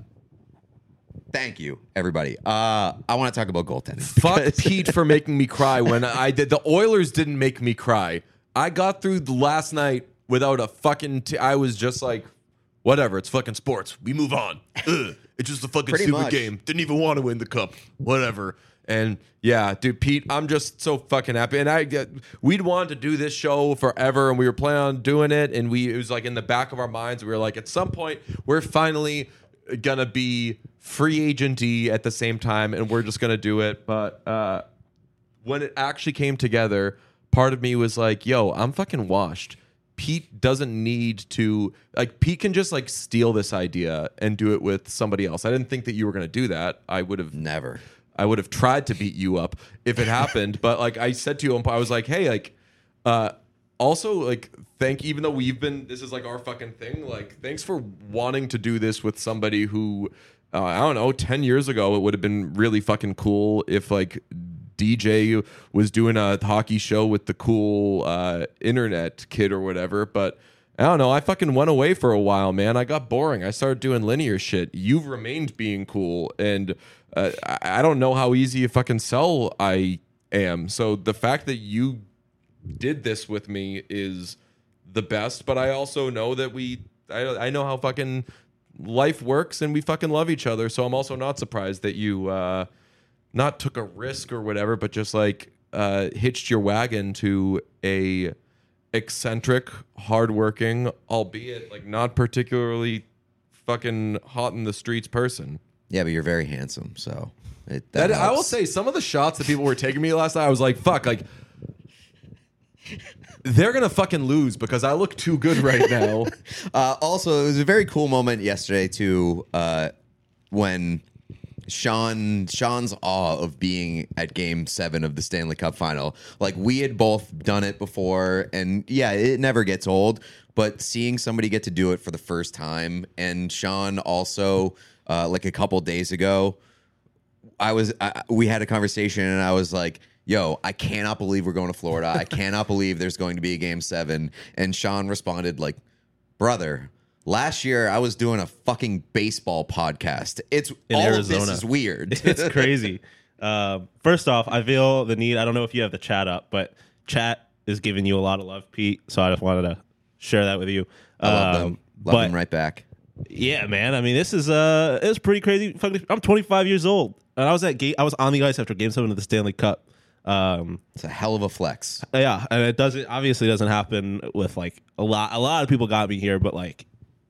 thank you, everybody. Uh, I want to talk about goaltending. Fuck Pete for making me cry when I did. The Oilers didn't make me cry. I got through the last night without a fucking. T- I was just like, whatever. It's fucking sports. We move on. Ugh, it's just a fucking Pretty stupid much. game. Didn't even want to win the cup. Whatever. And yeah, dude, Pete, I'm just so fucking happy. And I, uh, we'd wanted to do this show forever, and we were planning on doing it. And we, it was like in the back of our minds, we were like, at some point, we're finally gonna be free agenty at the same time, and we're just gonna do it. But uh, when it actually came together, part of me was like, yo, I'm fucking washed. Pete doesn't need to, like, Pete can just like steal this idea and do it with somebody else. I didn't think that you were gonna do that. I would have Never. I would have tried to beat you up if it happened. But like I said to you, I was like, hey, like, uh, also like, thank, even though we've been, this is like our fucking thing. Like, thanks for wanting to do this with somebody who, uh, I don't know, ten years ago, it would have been really fucking cool if like D J was doing a hockey show with the cool uh, internet kid or whatever. But I don't know. I fucking went away for a while, man. I got boring. I started doing linear shit. You've remained being cool, and uh, I, I don't know how easy a fucking sell I am. So the fact that you did this with me is the best. But I also know that we, I, I know how fucking life works, and we fucking love each other. So I'm also not surprised that you uh, not took a risk or whatever, but just like uh, hitched your wagon to a eccentric, hardworking, albeit like not particularly fucking hot in the streets person. Yeah, but you're very handsome, so it, That, that I will helps. say, some of the shots that people were taking me last night, I was like, fuck, like they're gonna fucking lose because I look too good right now. Uh, also, it was a very cool moment yesterday too, uh, when Sean Sean's awe of being at Game Seven of the Stanley Cup Final. Like, we had both done it before, and yeah, it never gets old. But seeing somebody get to do it for the first time, and Sean also, uh, like a couple days ago, I was I, we had a conversation, and I was like, yo, I cannot believe we're going to Florida. I cannot believe there's going to be a Game Seven. And Sean responded like, brother, last year I was doing a fucking baseball podcast. It's In all Arizona. of this is weird. It's crazy. Um, first off, I feel the need. I don't know if you have the chat up, but chat is giving you a lot of love, Pete. So I just wanted to share that with you. I love them. Um, Love but them right back. yeah, man. I mean, this is uh, it's pretty crazy. Fucking- I'm twenty-five years old, and I was at game. I was on the ice after Game Seven of the Stanley Cup. Um, It's a hell of a flex. yeah, and it doesn't obviously doesn't happen with like a lot. A lot of people got me here, but like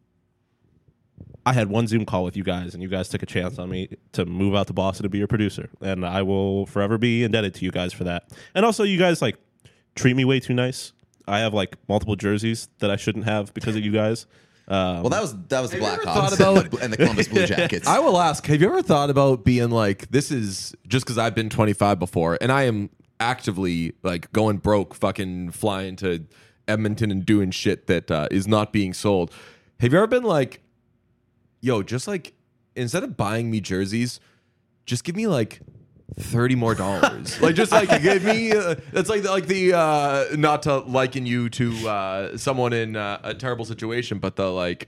I had one Zoom call with you guys, and you guys took a chance on me to move out to Boston to be your producer, and I will forever be indebted to you guys for that. And also, you guys like treat me way too nice. I have like multiple jerseys that I shouldn't have because of you guys. Um, Well, that was that was the Have you ever Blackhawks thought about- and, the, and the Columbus Blue Jackets. I will ask, have you ever thought about being like, this is just because I've been twenty-five before and I am actively like going broke, fucking flying to Edmonton and doing shit that uh, is not being sold. Have you ever been like, yo, just like, instead of buying me jerseys, just give me like thirty more dollars. Like, just like give me, uh, it's like, like the, uh, not to liken you to uh, someone in uh, a terrible situation, but the like,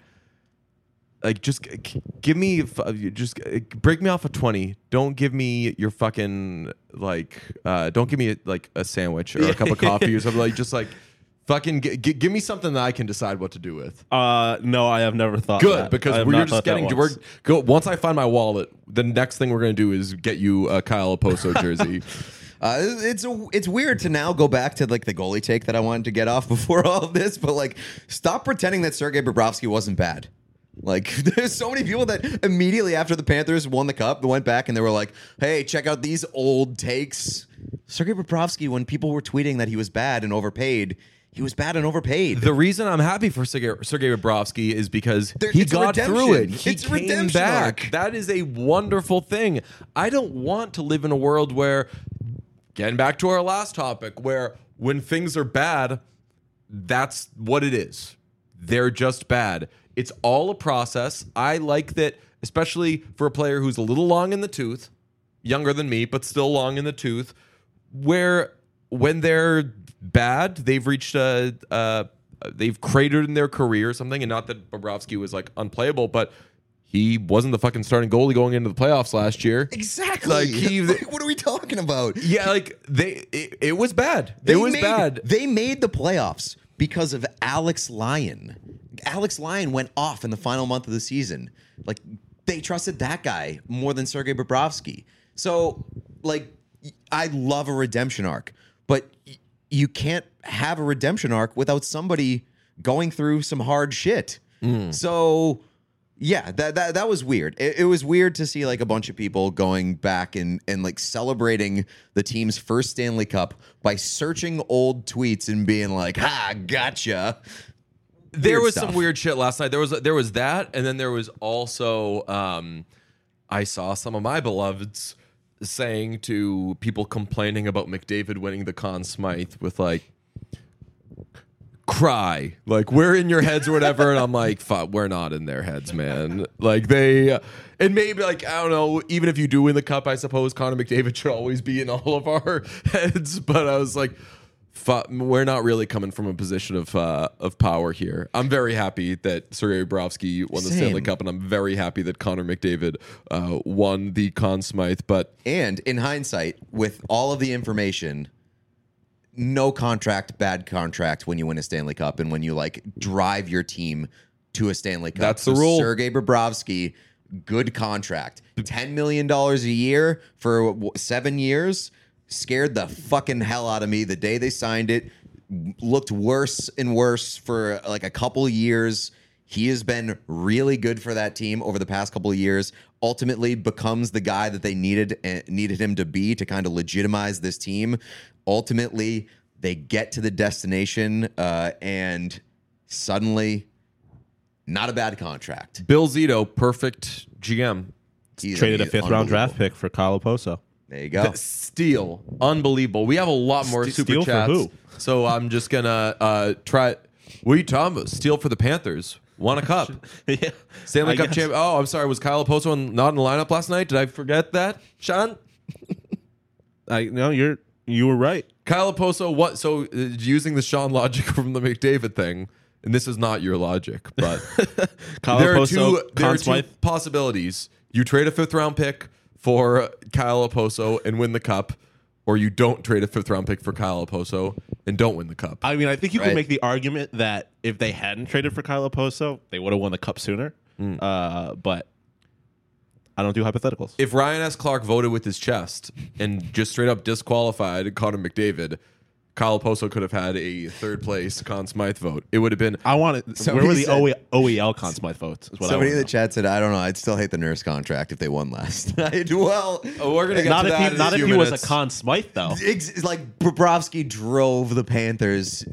like just g- g- give me, f- just g- break me off a twenty. Don't give me your fucking, like, uh, don't give me like a sandwich or a cup of coffee or something. Like, just like, fucking g- g- give me something that I can decide what to do with. uh, no, I have never thought Good, that. I because have we're not just thought that getting, we're once. go, once I find my wallet, the next thing we're going to do is get you a Kyle Oposo jersey. Uh, it's a, it's weird to now go back to like the goalie take that I wanted to get off before all of this, but like stop pretending that Sergei Bobrovsky wasn't bad. Like there's so many people that immediately after the Panthers won the cup went back and they were like, "Hey, check out these old takes." Sergei Bobrovsky, when people were tweeting that he was bad and overpaid, he was bad and overpaid. The reason I'm happy for Sergei, Sergei Bobrovsky is because There- he it's a got redemption. through it. He It's a came redemption back. arc. That is a wonderful thing. I don't want to live in a world where, getting back to our last topic, where when things are bad, that's what it is. They're just bad. It's all a process. I like that, especially for a player who's a little long in the tooth, younger than me, but still long in the tooth, where when they're bad, they've reached a, uh, they've cratered in their career or something. And not that Bobrovsky was like unplayable, but he wasn't the fucking starting goalie going into the playoffs last year. Exactly. Like, he- Like, what are we talking about? Yeah, like they, it, it was bad. They it was made, bad. They made the playoffs because of Alex Lyon. Alex Lyon went off in the final month of the season. Like they trusted that guy more than Sergei Bobrovsky. So, like, I love a redemption arc, but y- you can't have a redemption arc without somebody going through some hard shit. So. Yeah, that, that that was weird. It, it was weird to see like a bunch of people going back and and like celebrating the team's first Stanley Cup by searching old tweets and being like, "Ha, gotcha." There Weird was stuff. some weird shit last night. There was there was that, and then there was also um, I saw some of my beloveds saying to people complaining about McDavid winning the Conn Smythe with like, cry, like we're in your heads or whatever, and I'm like, fuck, we're not in their heads, man. Like they, and maybe like I don't know. Even if you do win the cup, I suppose Connor McDavid should always be in all of our heads. But I was like, fuck, we're not really coming from a position of uh, of power here. I'm very happy that Sergei Bobrovsky won the Same. Stanley Cup, and I'm very happy that Connor McDavid uh, won the Conn Smythe. But And in hindsight, with all of the information, no contract, bad contract when you win a Stanley Cup and when you like drive your team to a Stanley Cup. That's the rule. Sergei Bobrovsky, good contract, ten million dollars a year for what, seven years. Scared the fucking hell out of me the day they signed it. Looked worse and worse for like a couple years. He has been really good for that team over the past couple of years. Ultimately becomes the guy that they needed uh, needed him to be to kind of legitimize this team. Ultimately, they get to the destination uh, and suddenly, not a bad contract. Bill Zito, perfect G M. He's Traded a fifth round draft unbelievable. pick for Kyle Oposo. There you go. Steal, unbelievable. We have a lot more St- super steal for chats, who? so I'm just gonna uh, try. What are you talking about? Steal for the Panthers. Won a cup. yeah, Stanley I Cup guess. champ. Oh, I'm sorry. Was Kyle Oposo in- not in the lineup last night? Did I forget that, Sean? I no, you're you were right. Kyle Oposo. What? So uh, using the Sean logic from the McDavid thing, and this is not your logic, but Kyle there are Oposo, two. There Conn are two Smythe. possibilities. You trade a fifth round pick for Kyle Oposo and win the cup, or you don't trade a fifth round pick for Kyle Oposo and don't win the cup. I mean, I think you Right. could make the argument that if they hadn't traded for Kyle Oposo, they would have won the cup sooner. Hmm. Uh, but I don't do hypotheticals. If Ryan S. Clark voted with his chest and just straight up disqualified Connor McDavid, Kyle Poso could have had a third place Conn Smythe vote. It would have been. I want it. Somebody Where were the said- O E- O E L Conn Smythe votes? Is what Somebody I in the wanna chat said, I don't know. I'd still hate the Nurse contract if they won last night. Well, Oh, we're gonna get know. Not to if that he, in not a if few he was minutes. a Conn Smythe though. it's, it's like Bobrovsky drove the Panthers.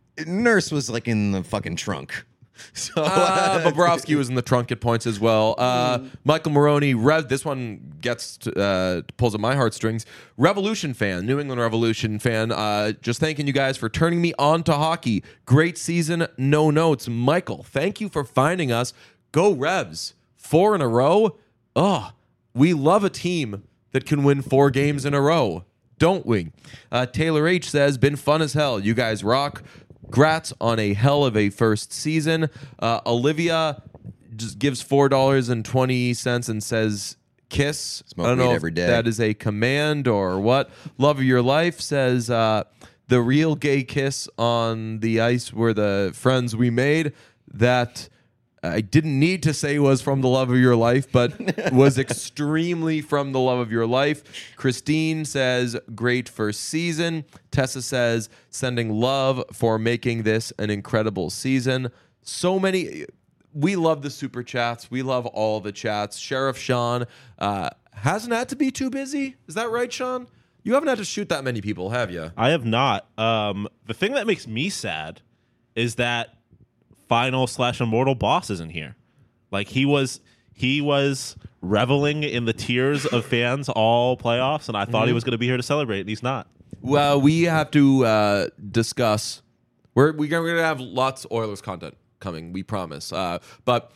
Nurse was like in the fucking trunk. So Uh, Bobrovsky was in the trunk at points as well. Uh, Michael Maroney, Rev. This one gets to, uh, pulls at my heartstrings. Revolution fan, New England Revolution fan. Uh, just thanking you guys for turning me on to hockey. Great season, no notes. Michael, thank you for finding us. Go Revs, four in a row. Oh, we love a team that can win four games in a row, don't we? Uh, Taylor H says, been fun as hell. You guys rock. Grats on a hell of a first season. Uh, Olivia just gives four dollars and twenty cents and says, kiss. Smoke I don't weed know every if day. that is a command or what. Love of your life says, uh, the real gay kiss on the ice were the friends we made. That I didn't need to say was from the love of your life, but was extremely from the love of your life. Christine says, great first season. Tessa says, sending love for making this an incredible season. So many. We love the super chats. We love all the chats. Sheriff Sean uh, hasn't had to be too busy. Is that right, Sean? You haven't had to shoot that many people, have you? I have not. Um, the thing that makes me sad is that final slash immortal boss isn't here. Like he was, he was reveling in the tears of fans all playoffs, and I thought he was going to be here to celebrate, and he's not. Well, we have to uh, discuss. We're we're going to have lots of Oilers content coming. We promise. Uh, but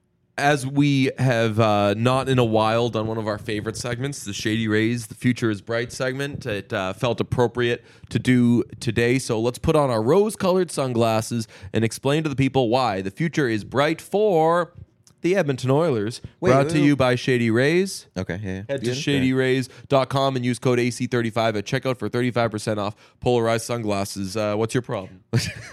as we have uh, not in a while done one of our favorite segments, the Shady Rays, the Future is Bright segment, it uh, felt appropriate to do today. So let's put on our rose-colored sunglasses and explain to the people why the future is bright for the Edmonton Oilers. Wait, brought wait, to wait. you by Shady Rays. Okay, yeah. Head to Good. shady rays dot com and use code A C thirty-five at checkout for thirty-five percent off polarized sunglasses. Uh, what's your problem?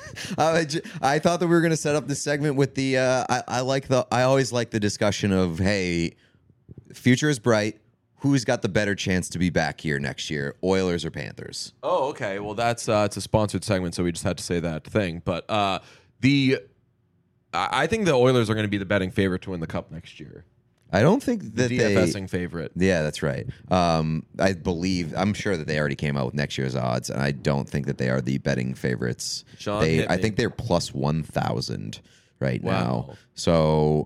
I, j- I thought that we were going to set up this segment with the. Uh, I, I like the. I always like the discussion of, hey, future is bright. Who's got the better chance to be back here next year, Oilers or Panthers? Oh, okay. Well, that's uh, it's a sponsored segment, so we just had to say that thing. But uh, the I I think the Oilers are going to be the betting favorite to win the Cup next year. I don't think The that DFSing they. favorite. Yeah, that's right. Um, I believe. I'm sure that they already came out with next year's odds, and I don't think that they are the betting favorites. Sean, they, hit I me. think they're plus one thousand right Wow. now. So,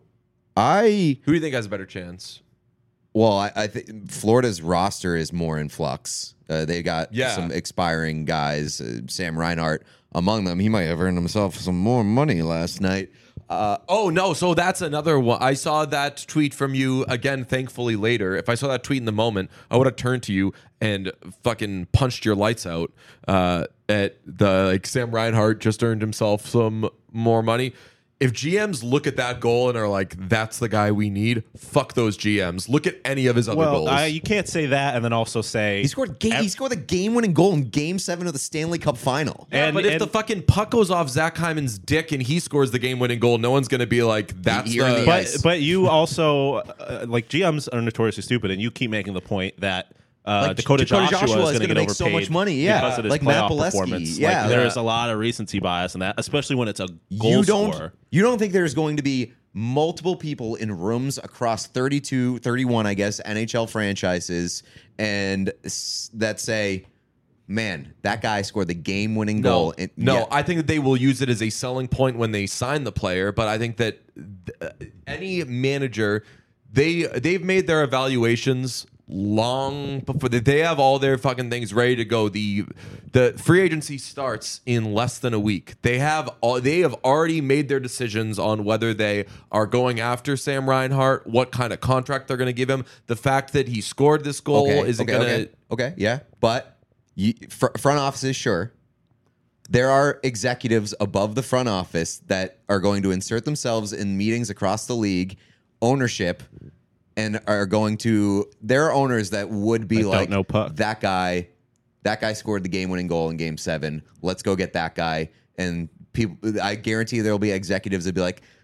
I Who do you think has a better chance? Well, I, I think Florida's roster is more in flux. Uh, they got Yeah. some expiring guys. Uh, Sam Reinhart among them. He might have earned himself some more money last night. Uh, oh no! So that's another one. I saw that tweet from you again. Thankfully, later. If I saw that tweet in the moment, I would have turned to you and fucking punched your lights out. Uh, at the like, Sam Reinhart just earned himself some more money. If G Ms look at that goal and are like, "That's the guy we need," fuck those G Ms. Look at any of his other Well, goals. I, you can't say that and then also say He scored. Ga- he scored the game-winning goal in Game Seven of the Stanley Cup Final. yeah, and- but if and- the fucking puck goes off Zach Hyman's dick and he scores the game-winning goal, no one's gonna be like, "That's You're in the." the But ice. but you also uh, like G Ms are notoriously stupid, and you keep making the point that uh, Like, Dakota, Dakota Joshua, Joshua is is going to gonna get make so overpaid much money, yeah. because of his Like Matt playoff Bolesky, performance. yeah. like, there Yeah. is a lot of recency bias in that, especially when it's a goal You don't. scorer. You don't think there's going to be multiple people in rooms across thirty-two, thirty-one, I guess, N H L franchises, and s- that say, "Man, that guy scored the game-winning No, goal." And no, yeah, I think that they will use it as a selling point when they sign the player. But I think that uh, any manager, they they've made their evaluations long before they, they have all their fucking things ready to go. The the free agency starts in less than a week. They have all they have already made their decisions on whether they are going after Sam Reinhart, what kind of contract they're going to give him. The fact that he scored this goal okay, isn't okay, going to. okay, okay, yeah, but you, fr- front offices, sure. There are executives above the front office that are going to insert themselves in meetings across the league, ownership, and are going to. There are owners that would be That don't like, know puck. that guy, that guy scored the game-winning goal in Game Seven. Let's go get that guy. And people, I guarantee there will be executives that be like,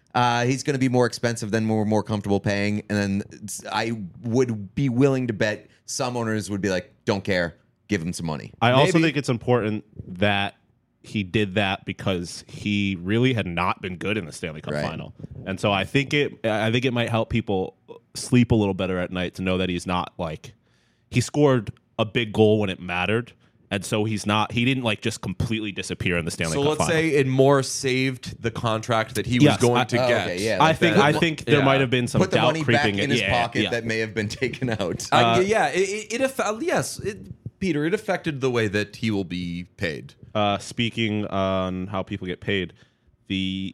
Uh, he's going to be more expensive than we're more comfortable paying. And then I would be willing to bet some owners would be like, don't care, give him some money. I also Maybe. think it's important that he did that because he really had not been good in the Stanley Cup Right. final. And so I think it I think it might help people sleep a little better at night to know that he's not like he scored a big goal when it mattered. And so he's not he didn't like just completely disappear in the Stanley So Cup let's final. say it more saved the contract that he Yes, was going I- to Oh, get. okay, yeah. I like think that. I think there Yeah. might have been some Put the doubt money back creeping in in. his yeah, pocket yeah. that may have been taken out. Uh, yeah, it, it, it affa- yes, it, Peter, it affected the way that he will be paid. Uh, speaking on how people get paid, the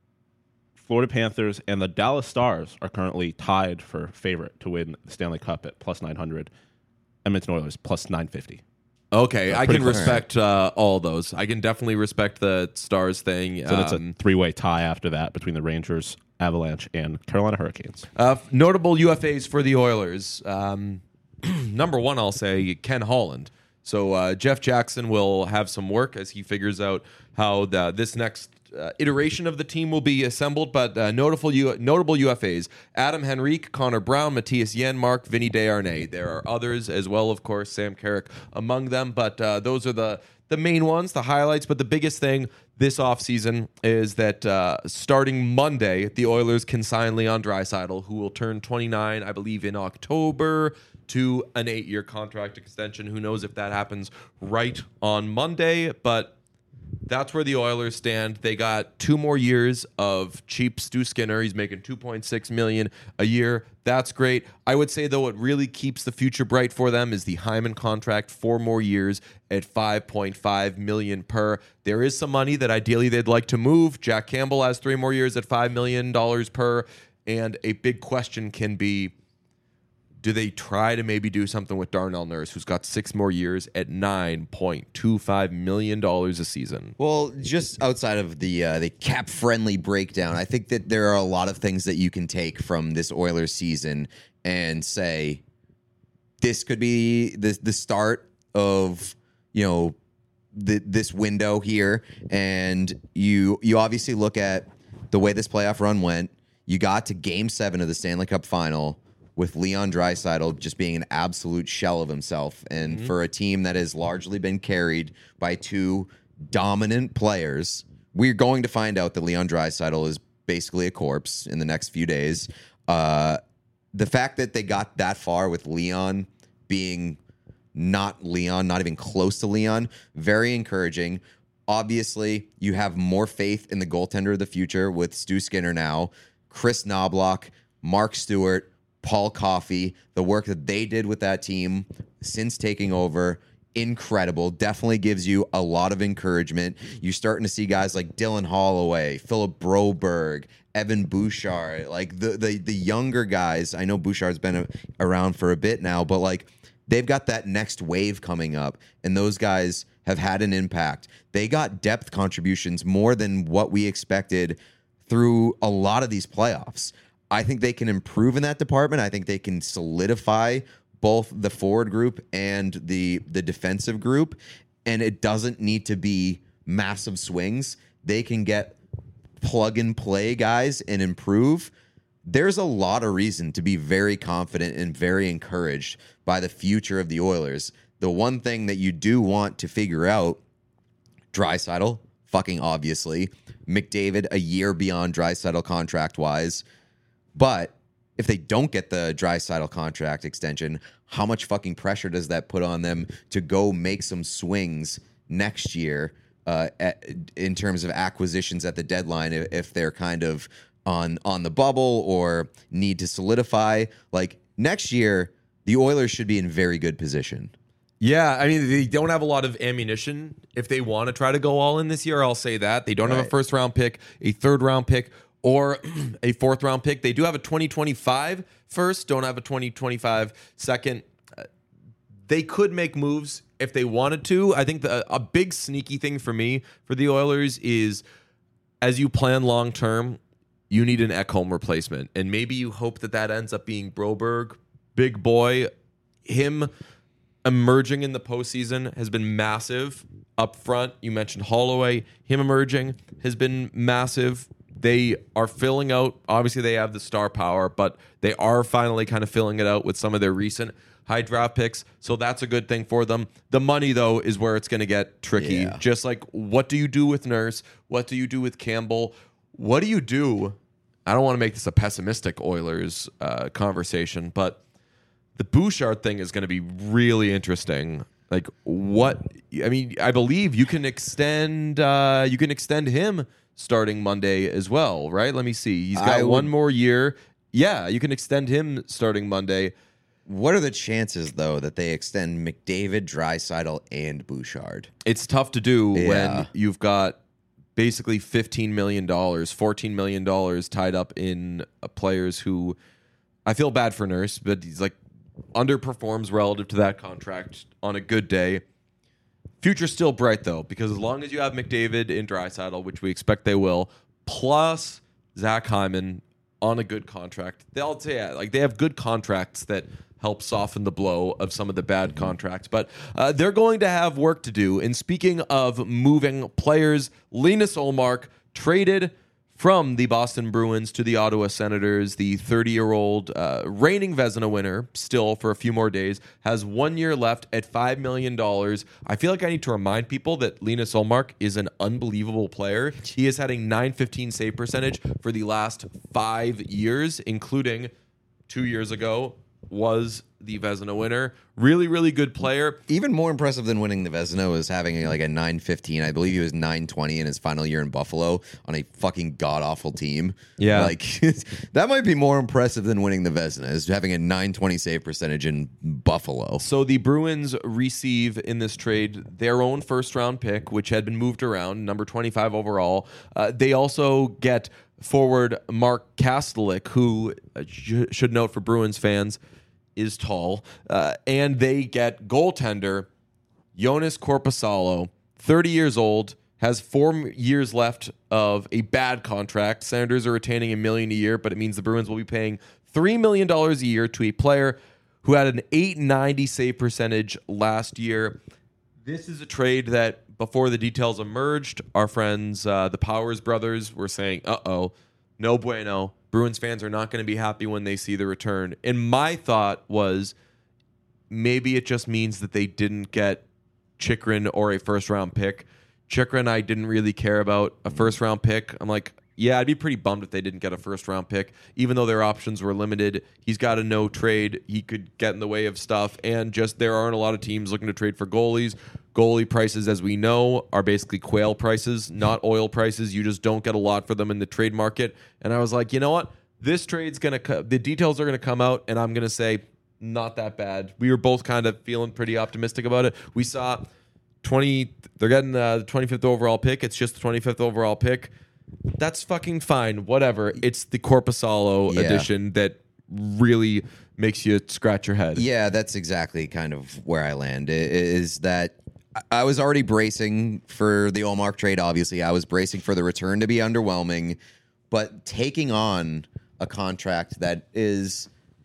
Florida Panthers and the Dallas Stars are currently tied for favorite to win the Stanley Cup at plus nine hundred. Edmonton Oilers plus nine fifty. Okay, I pretty can close. respect uh, all those. I can definitely respect the Stars thing. So that's a Um, three-way tie after that between the Rangers, Avalanche, and Carolina Hurricanes. uh, notable U F As for the Oilers. Um, number one, I'll say Ken Holland. So uh, Jeff Jackson will have some work as he figures out how the, this next uh, iteration of the team will be assembled. But uh, notable U- notable U F As: Adam Henrique, Connor Brown, Matthias Janmark, Vinny Desharnais. There are others as well, of course, Sam Carrick among them. But uh, those are the the main ones, the highlights. But the biggest thing this offseason is that uh, starting Monday, the Oilers can sign Leon Draisaitl, who will turn twenty-nine, I believe, in October, to an eight-year contract extension. Who knows if that happens right on Monday, but that's where the Oilers stand. They got two more years of cheap Stu Skinner. He's making two point six million dollars a year. That's great. I would say, though, what really keeps the future bright for them is the Hyman contract, four more years at five point five million dollars per. There is some money that ideally they'd like to move. Jack Campbell has three more years at five million dollars per. And a big question can be, do they try to maybe do something with Darnell Nurse, who's got six more years at nine point two five million dollars a season? Well, just outside of the uh, the cap friendly breakdown, I think that there are a lot of things that you can take from this Oilers season and say this could be the the start of, you know, the, this window here. And you you obviously look at the way this playoff run went. You got to Game Seven of the Stanley Cup Final with Leon Draisaitl just being an absolute shell of himself. And mm-hmm. for a team that has largely been carried by two dominant players, we're going to find out that Leon Draisaitl is basically a corpse in the next few days. Uh, the fact that they got that far with Leon being not Leon, not even close to Leon, very encouraging. Obviously, you have more faith in the goaltender of the future with Stu Skinner now, Chris Knobloch, Mark Stewart, Paul Coffey, the work that they did with that team since taking over, incredible. Definitely gives you a lot of encouragement. You're starting to see guys like Dylan Holloway, Philip Broberg, Evan Bouchard, like the the the younger guys. I know Bouchard's been a, around for a bit now, but like they've got that next wave coming up, and those guys have had an impact. They got depth contributions more than what we expected through a lot of these playoffs. I think they can improve in that department. I think they can solidify both the forward group and the the defensive group, and it doesn't need to be massive swings. They can get plug and play guys and improve. There's a lot of reason to be very confident and very encouraged by the future of the Oilers. The one thing that you do want to figure out, Draisaitl, fucking obviously, McDavid a year beyond Draisaitl contract-wise, but if they don't get the Draisaitl contract extension, how much fucking pressure does that put on them to go make some swings next year uh, at, in terms of acquisitions at the deadline if, if they're kind of on on the bubble or need to solidify? Like next year, the Oilers should be in very good position. Yeah, I mean, they don't have a lot of ammunition if they want to try to go all in this year. I'll say that. They don't Right. have a first round pick, a third round pick, or a fourth round pick. They do have a twenty twenty-five first, don't have a twenty twenty-five second. Uh, they could make moves if they wanted to. I think the, a big sneaky thing for me for the Oilers is as you plan long term, you need an Ekholm replacement. And maybe you hope that that ends up being Broberg, big boy. Him emerging in the postseason has been massive up front. You mentioned Holloway. Him emerging has been massive. they are filling out. Obviously, they have the star power, but they are finally kind of filling it out with some of their recent high draft picks. So that's a good thing for them. The money, though, is where it's going to get tricky. Yeah. Just like, what do you do with Nurse? What do you do with Campbell? What do you do? I don't want to make this a pessimistic Oilers uh, conversation, but the Bouchard thing is going to be really interesting. Like, what? I mean, I believe you can extend. Uh, you can extend him starting Monday as well, right? Let me see. He's got I one would- more year. Yeah, you can extend him starting Monday. What are the chances, though, that they extend McDavid, Draisaitl, and Bouchard? It's tough to do Yeah. when you've got basically fifteen million dollars, fourteen million dollars tied up in uh, players who I feel bad for Nurse, but he's like underperforms relative to that contract on a good day. Future's still bright, though, because as long as you have McDavid and Draisaitl, which we expect they will, plus Zach Hyman on a good contract, they'll say yeah, like they have good contracts that help soften the blow of some of the bad contracts. But uh, they're going to have work to do. And speaking of moving players, Linus Ullmark traded from the Boston Bruins to the Ottawa Senators. The thirty-year-old uh, reigning Vezina winner, still for a few more days, has one year left at five million dollars. I feel like I need to remind people that Linus Ullmark is an unbelievable player. He has had a nine fifteen save percentage for the last five years, including two years ago was the Vezina winner. Really, really good player. Even more impressive than winning the Vezina was having like a nine fifteen. I believe he was nine twenty in his final year in Buffalo on a fucking god-awful team. Yeah. Like, that might be more impressive than winning the Vezina, is having a nine twenty save percentage in Buffalo. So the Bruins receive in this trade their own first round pick, which had been moved around, number twenty-five overall. Uh, they also get forward Mark Kastelik, who uh, sh- should note for Bruins fans is tall, uh, and they get goaltender Jonas Korpisalo, thirty years old, has four years left of a bad contract. Senators are retaining a million a year, but it means the Bruins will be paying three million dollars a year to a player who had an eight ninety save percentage last year. This is a trade that, before the details emerged, our friends, uh, the Powers brothers, were saying, uh-oh, no bueno. Bruins fans are not going to be happy when they see the return. And my thought was maybe it just means that they didn't get Chychrun or a first-round pick. Chychrun I didn't really care about a first-round pick. I'm like, yeah, I'd be pretty bummed if they didn't get a first-round pick, even though their options were limited. He's got a no trade. He could get in the way of stuff, and just there aren't a lot of teams looking to trade for goalies. Goalie prices, as we know, are basically quail prices, not oil prices. You just don't get a lot for them in the trade market. And I was like, you know what? This trade's going to co- the details are going to come out, and I'm going to say not that bad. We were both kind of feeling pretty optimistic about it. We saw twenty they're getting uh, the twenty-fifth overall pick. It's just the twenty-fifth overall pick. That's fucking fine. Whatever. It's the Korpisalo Yeah. edition that really makes you scratch your head. Yeah, that's exactly kind of where I land. i- Is that I was already bracing for the Ullmark trade, obviously. I was bracing for the return to be underwhelming, but taking on a contract that is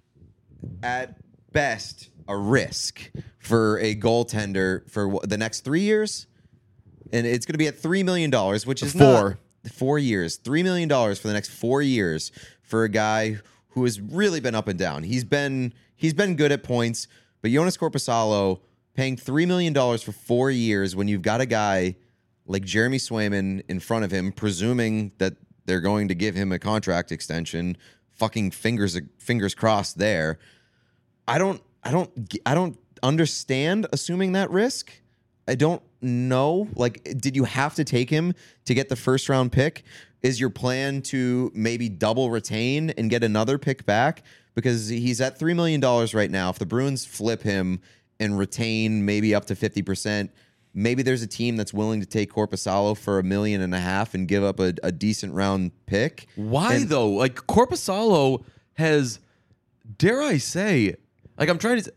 at best a risk for a goaltender for wh- the next three years, and it's going to be at three million dollars, which is Four. not four years, three million dollars for the next four years for a guy who has really been up and down. He's been he's been good at points, but Jonas Korpisalo paying three million dollars for four years when you've got a guy like Jeremy Swayman in front of him, presuming that they're going to give him a contract extension. Fucking fingers fingers crossed there. I don't I don't I don't understand assuming that risk. I don't know. Like, did you have to take him to get the first round pick? Is your plan to maybe double retain and get another pick back? Because he's at three million dollars right now. If the Bruins flip him and retain maybe up to fifty percent, maybe there's a team that's willing to take Korpisalo for a million and a half and give up a, a decent round pick. Why And- though? Like Korpisalo has, dare I say, like I'm trying to.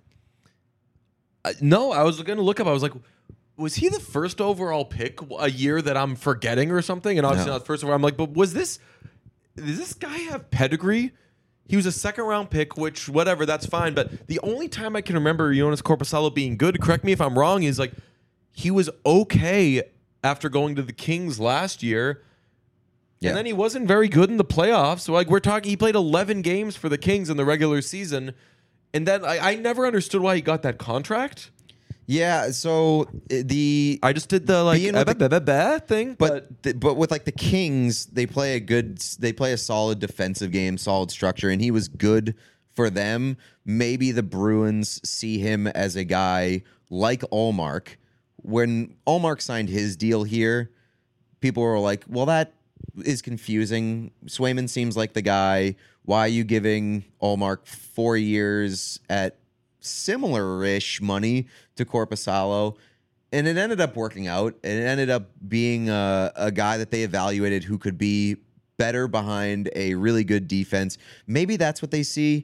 Uh, no, I was going to look up. I was like, was he the first overall pick a year that I'm forgetting or something? And obviously No. not the first overall. I'm like, but was this? Does this guy have pedigree? He was a second round pick, which whatever, that's fine. But the only time I can remember Jonas Korpisalo being good, correct me if I'm wrong, is like he was okay after going to the Kings last year. Yeah. And then he wasn't very good in the playoffs. So like we're talking, he played eleven games for the Kings in the regular season, and then I, I never understood why he got that contract. Yeah, so uh, the I just did the like Being with uh, the- bah, bah, bah thing, but, but th- but with like the Kings, they play a good, they play a solid defensive game, solid structure, and he was good for them. Maybe the Bruins see him as a guy like Ullmark. When Ullmark signed his deal here, people were like, "Well, that is confusing. Swayman seems like the guy. Why are you giving Ullmark four years at similar-ish money to Korpisalo?" And it ended up working out. It ended up being a, a guy that they evaluated who could be better behind a really good defense. Maybe that's what they see.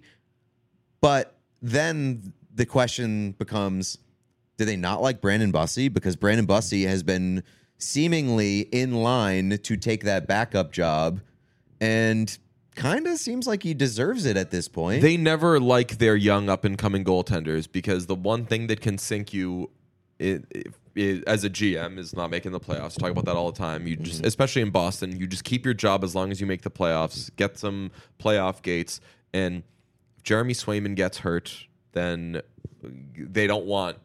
But then the question becomes, do they not like Brandon Bussey? Because Brandon Bussey has been seemingly in line to take that backup job and kind of seems like he deserves it at this point. they never like their young up and coming goaltenders because the one thing that can sink you it, it, it, as a G M is not making the playoffs. Talk about that all the time. You just, especially in Boston, you just keep your job as long as you make the playoffs, get some playoff gates. And if Jeremy Swayman gets hurt, then they don't want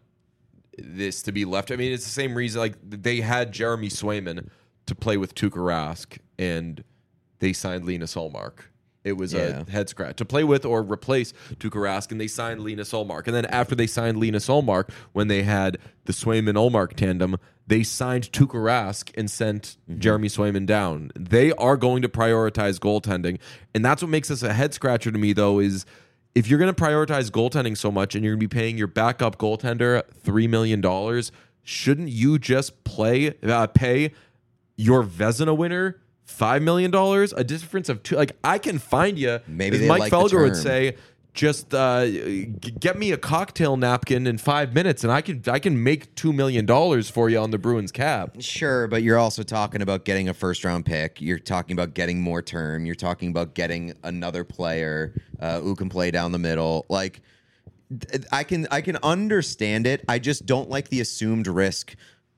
this to be left. I mean, it's the same reason. Like they had Jeremy Swayman to play with Tuukka Rask, and they signed Linus Ullmark. It was Yeah. a head scratch to play with or replace Tuukka Rask, and they signed Linus Ullmark. And then after they signed Linus Ullmark, when they had the Swayman-Ullmark tandem, they signed Tuukka Rask and sent Mm-hmm. Jeremy Swayman down. They are going to prioritize goaltending, and that's what makes this a head scratcher to me. Though is if you're going to prioritize goaltending so much, and you're going to be paying your backup goaltender three million dollars, shouldn't you just play uh, pay your Vezina winner five million dollars, a difference of two? Like I can find you. Maybe as they Mike like the Felger would term. say, just uh, g- get me a cocktail napkin in five minutes, and I can I can make two million dollars for you on the Bruins cap. Sure, but you're also talking about getting a first round pick. You're talking about getting more term. You're talking about getting another player uh, who can play down the middle. Like th- I can I can understand it. I just don't like the assumed risk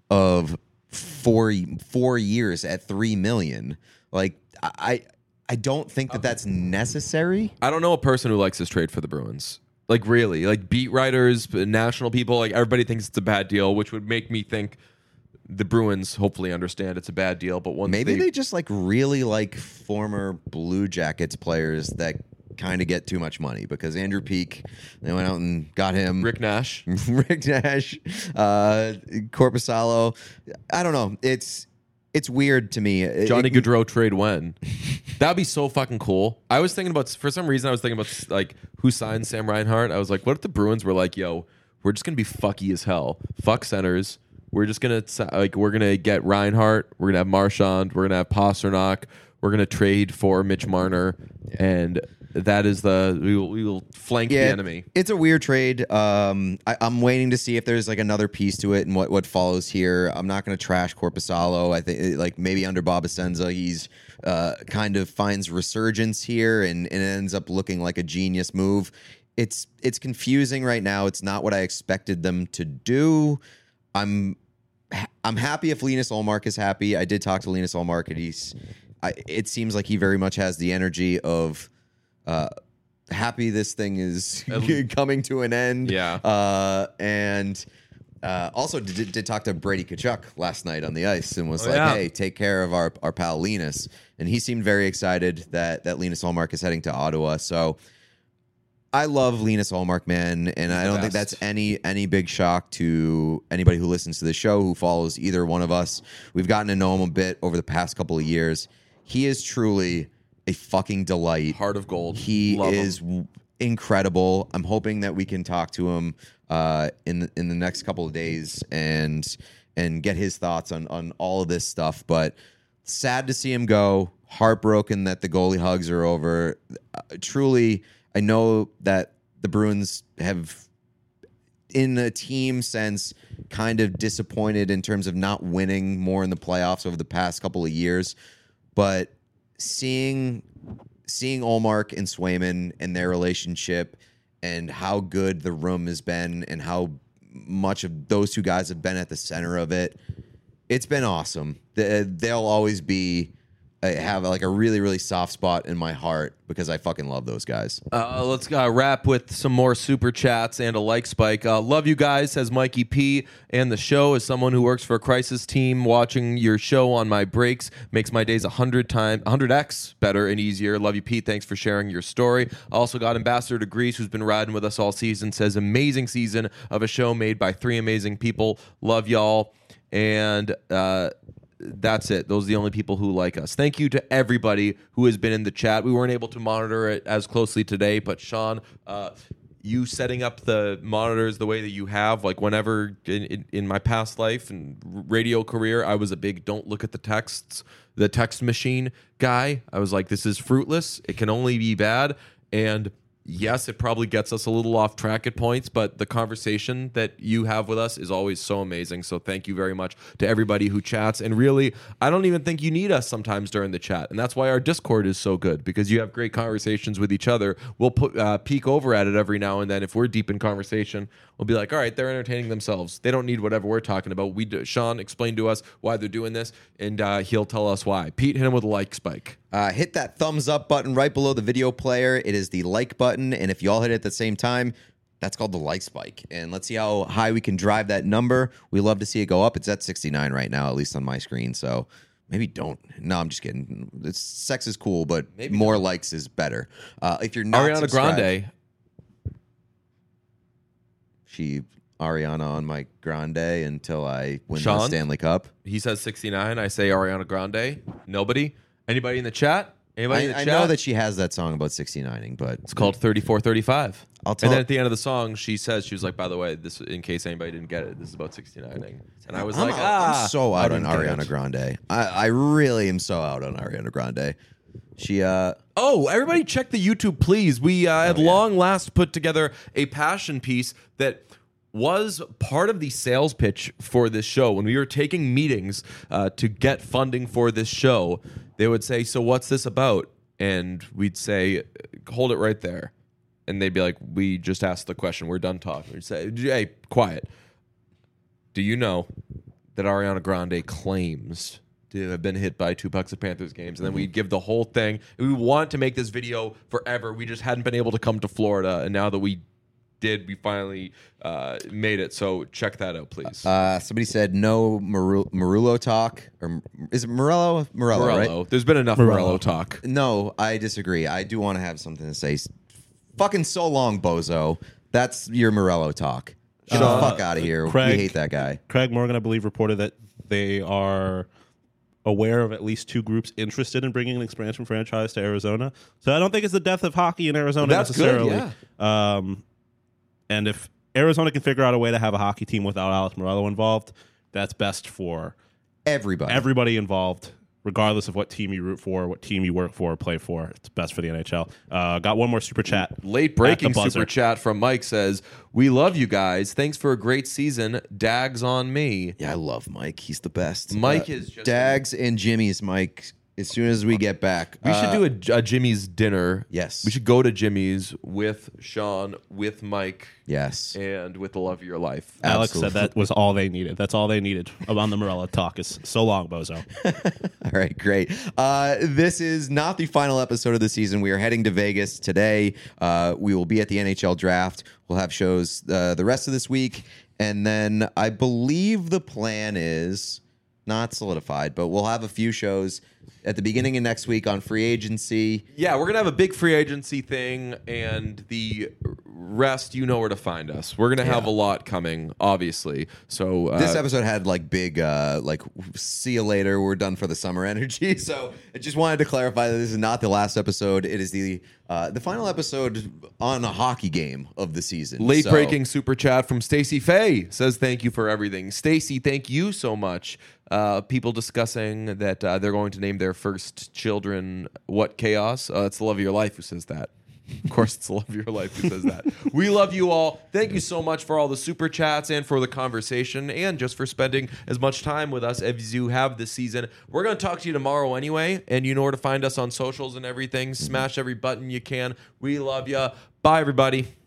of four four years at three million. Like I I don't think that that's necessary. I don't know a person who likes this trade for the Bruins. Like really, like beat writers, national people, like everybody thinks it's a bad deal, which would make me think the Bruins hopefully understand it's a bad deal. But once Maybe they, they just like really like former Blue Jackets players that kind of get too much money, because Andrew Peak, they went out and got him. Rick Nash. Rick Nash, uh, Korpisalo. I don't know. It's it's weird to me. It- Johnny it- Gaudreau trade when? That'd be so fucking cool. I was thinking about, for some reason, I was thinking about like who signed Sam Reinhart. I was like, what if the Bruins were like, yo, we're just gonna be fucky as hell, fuck centers. We're just gonna si- like we're gonna get Reinhart. We're gonna have Marchand. We're gonna have Pasternak. We're gonna trade for Mitch Marner, and that is the we will, we will flank the enemy. It's a weird trade. Um, I, I'm waiting to see if there's like another piece to it and what, what follows here. I'm not going to trash Korpisalo. I think like maybe under Bob Essenza, he's uh, kind of finds resurgence here and, and it ends up looking like a genius move. It's it's confusing right now. It's not what I expected them to do. I'm I'm happy if Linus Ullmark is happy. I did talk to Linus Ullmark, and he's. I, it seems like he very much has the energy of. Uh, happy this thing is coming to an end. Yeah. Uh, and uh, also did, did talk to Brady Tkachuk last night on the ice and was Oh, like, yeah. hey, take care of our, our pal Linus. And he seemed very excited that, that Linus Ullmark is heading to Ottawa. So I love Linus Ullmark, man. And I the don't think best. that's any any big shock to anybody who listens to the show, who follows either one of us. We've gotten to know him a bit over the past couple of years. He is truly a fucking delight. Heart of gold. He Love is him. w- incredible. I'm hoping that we can talk to him uh, in the, in the next couple of days and and get his thoughts on on all of this stuff. But sad to see him go. Heartbroken that the goalie hugs are over. Uh, truly, I know that the Bruins have, in a team sense, kind of disappointed in terms of not winning more in the playoffs over the past couple of years. But seeing seeing Ullmark and Swayman and their relationship and how good the room has been and how much of those two guys have been at the center of it, it's been awesome. The- They'll always be I have like a really, really soft spot in my heart because I fucking love those guys. Uh, let's uh, wrap with some more super chats and a like spike. Uh, love you guys, says Mikey P. And the show, as someone who works for a crisis team, watching your show on my breaks makes my days a hundred times, one hundred x better and easier. Love you, Pete. Thanks for sharing your story. Also got Ambassador to Greece, who's been riding with us all season. Says amazing season of a show made by three amazing people. Love y'all. And uh, that's it. Those are the only people who like us. Thank you to everybody who has been in the chat. We weren't able to monitor it as closely today, but Sean, uh, you setting up the monitors the way that you have, like whenever in, in, in my past life and radio career, I was a big don't look at the texts, the text machine guy. I was like, this is fruitless. It can only be bad. And yes, it probably gets us a little off track at points, but the conversation that you have with us is always so amazing. So thank you very much to everybody who chats. And really, I don't even think you need us sometimes during the chat. And that's why our Discord is so good, because you have great conversations with each other. We'll put, uh, peek over at it every now and then. If we're deep in conversation, we'll be like, all right, they're entertaining themselves. They don't need whatever we're talking about. We do, Sean explained to us why they're doing this, and uh, he'll tell us why. Pete, hit him with a like spike. Uh, hit that thumbs up button right below the video player. It is the like button. And if you all hit it at the same time, that's called the like spike. And let's see how high we can drive that number. We love to see it go up. It's at sixty-nine right now, at least on my screen. So maybe don't. No, I'm just kidding. It's, sex is cool, but maybe more don't. Likes is better. Uh, if you're not Ariana Grande. She... Ariana on my Grande until I win Sean, the Stanley Cup. He says sixty-nine. I say Ariana Grande. Nobody? Anybody in the chat? Anybody I, in the I chat? know that she has that song about sixty-nining, but it's called thirty-four thirty-five. I'll tell and then at the end of the song, she says, she was like, by the way, this, in case anybody didn't get it, this is about sixty-nining. And I was I'm like, out, ah. I'm so out on Ariana it. Grande. I, I really am so out on Ariana Grande. She, uh... Oh, everybody check the YouTube, please. We uh, at oh, yeah. long last put together a passion piece that was part of the sales pitch for this show. When we were taking meetings uh, to get funding for this show, they would say, so what's this about? And we'd say, hold it right there. And they'd be like, we just asked the question. We're done talking. We'd say, hey, quiet. Do you know that Ariana Grande claims to have been hit by two Bucks of Panthers games? And then we'd give the whole thing. We want to make this video forever. We just hadn't been able to come to Florida. And now that we did, we finally uh, made it. So check that out, please. Uh, somebody said no Maru- Marullo talk. Or is it Morello? Morello, Morello. right? There's been enough Morello. Morello talk. No, I disagree. I do want to have something to say. Fucking so long, bozo. That's your Morello talk. Get the Uh, fuck out of here. Craig- we hate that guy. Craig Morgan, I believe, reported that they are aware of at least two groups interested in bringing an expansion franchise to Arizona. So I don't think it's the death of hockey in Arizona That's good, necessarily. Um, and if Arizona can figure out a way to have a hockey team without Alex Morello involved, that's best for Everybody. everybody involved, regardless of what team you root for, what team you work for or play for. It's best for the N H L. Uh, got one more super chat. Late breaking at the buzzer. super chat from Mike says, we love you guys. Thanks for a great season. Dags on me. Yeah, I love Mike. He's the best. Mike Uh, is just Dags and Jimmy's Mike. As soon as we get back, We Uh, should do a, a Jimmy's dinner. Yes. We should go to Jimmy's with Sean, with Mike, Yes. and with the love of your life. Alex Absolutely. said that was all they needed. That's all they needed on the Morello talk. Is so long, bozo. All right, great. Uh, this is not the final episode of the season. We are heading to Vegas today. Uh, we will be at the N H L draft. We'll have shows uh, the rest of this week. And then I believe the plan is not solidified, but we'll have a few shows at the beginning of next week on free agency. Yeah, we're going to have a big free agency thing, and the rest, you know where to find us. We're going to have Yeah. a lot coming, obviously. So uh, This episode had like big, uh, like, see you later, we're done for the summer energy. So I just wanted to clarify that this is not the last episode. It is the uh, the final episode on a hockey game of the season. late So- breaking super chat from Stacy Faye says, thank you for everything. Stacy, thank you so much. Uh, people discussing that uh, they're going to name their first children what chaos. Uh, it's the love of your life who says that. Of course, it's the love of your life who says that. We love you all. Thank you so much for all the super chats and for the conversation and just for spending as much time with us as you have this season. We're going to talk to you tomorrow anyway, and you know where to find us on socials and everything. Smash every button you can. We love you. Bye, everybody.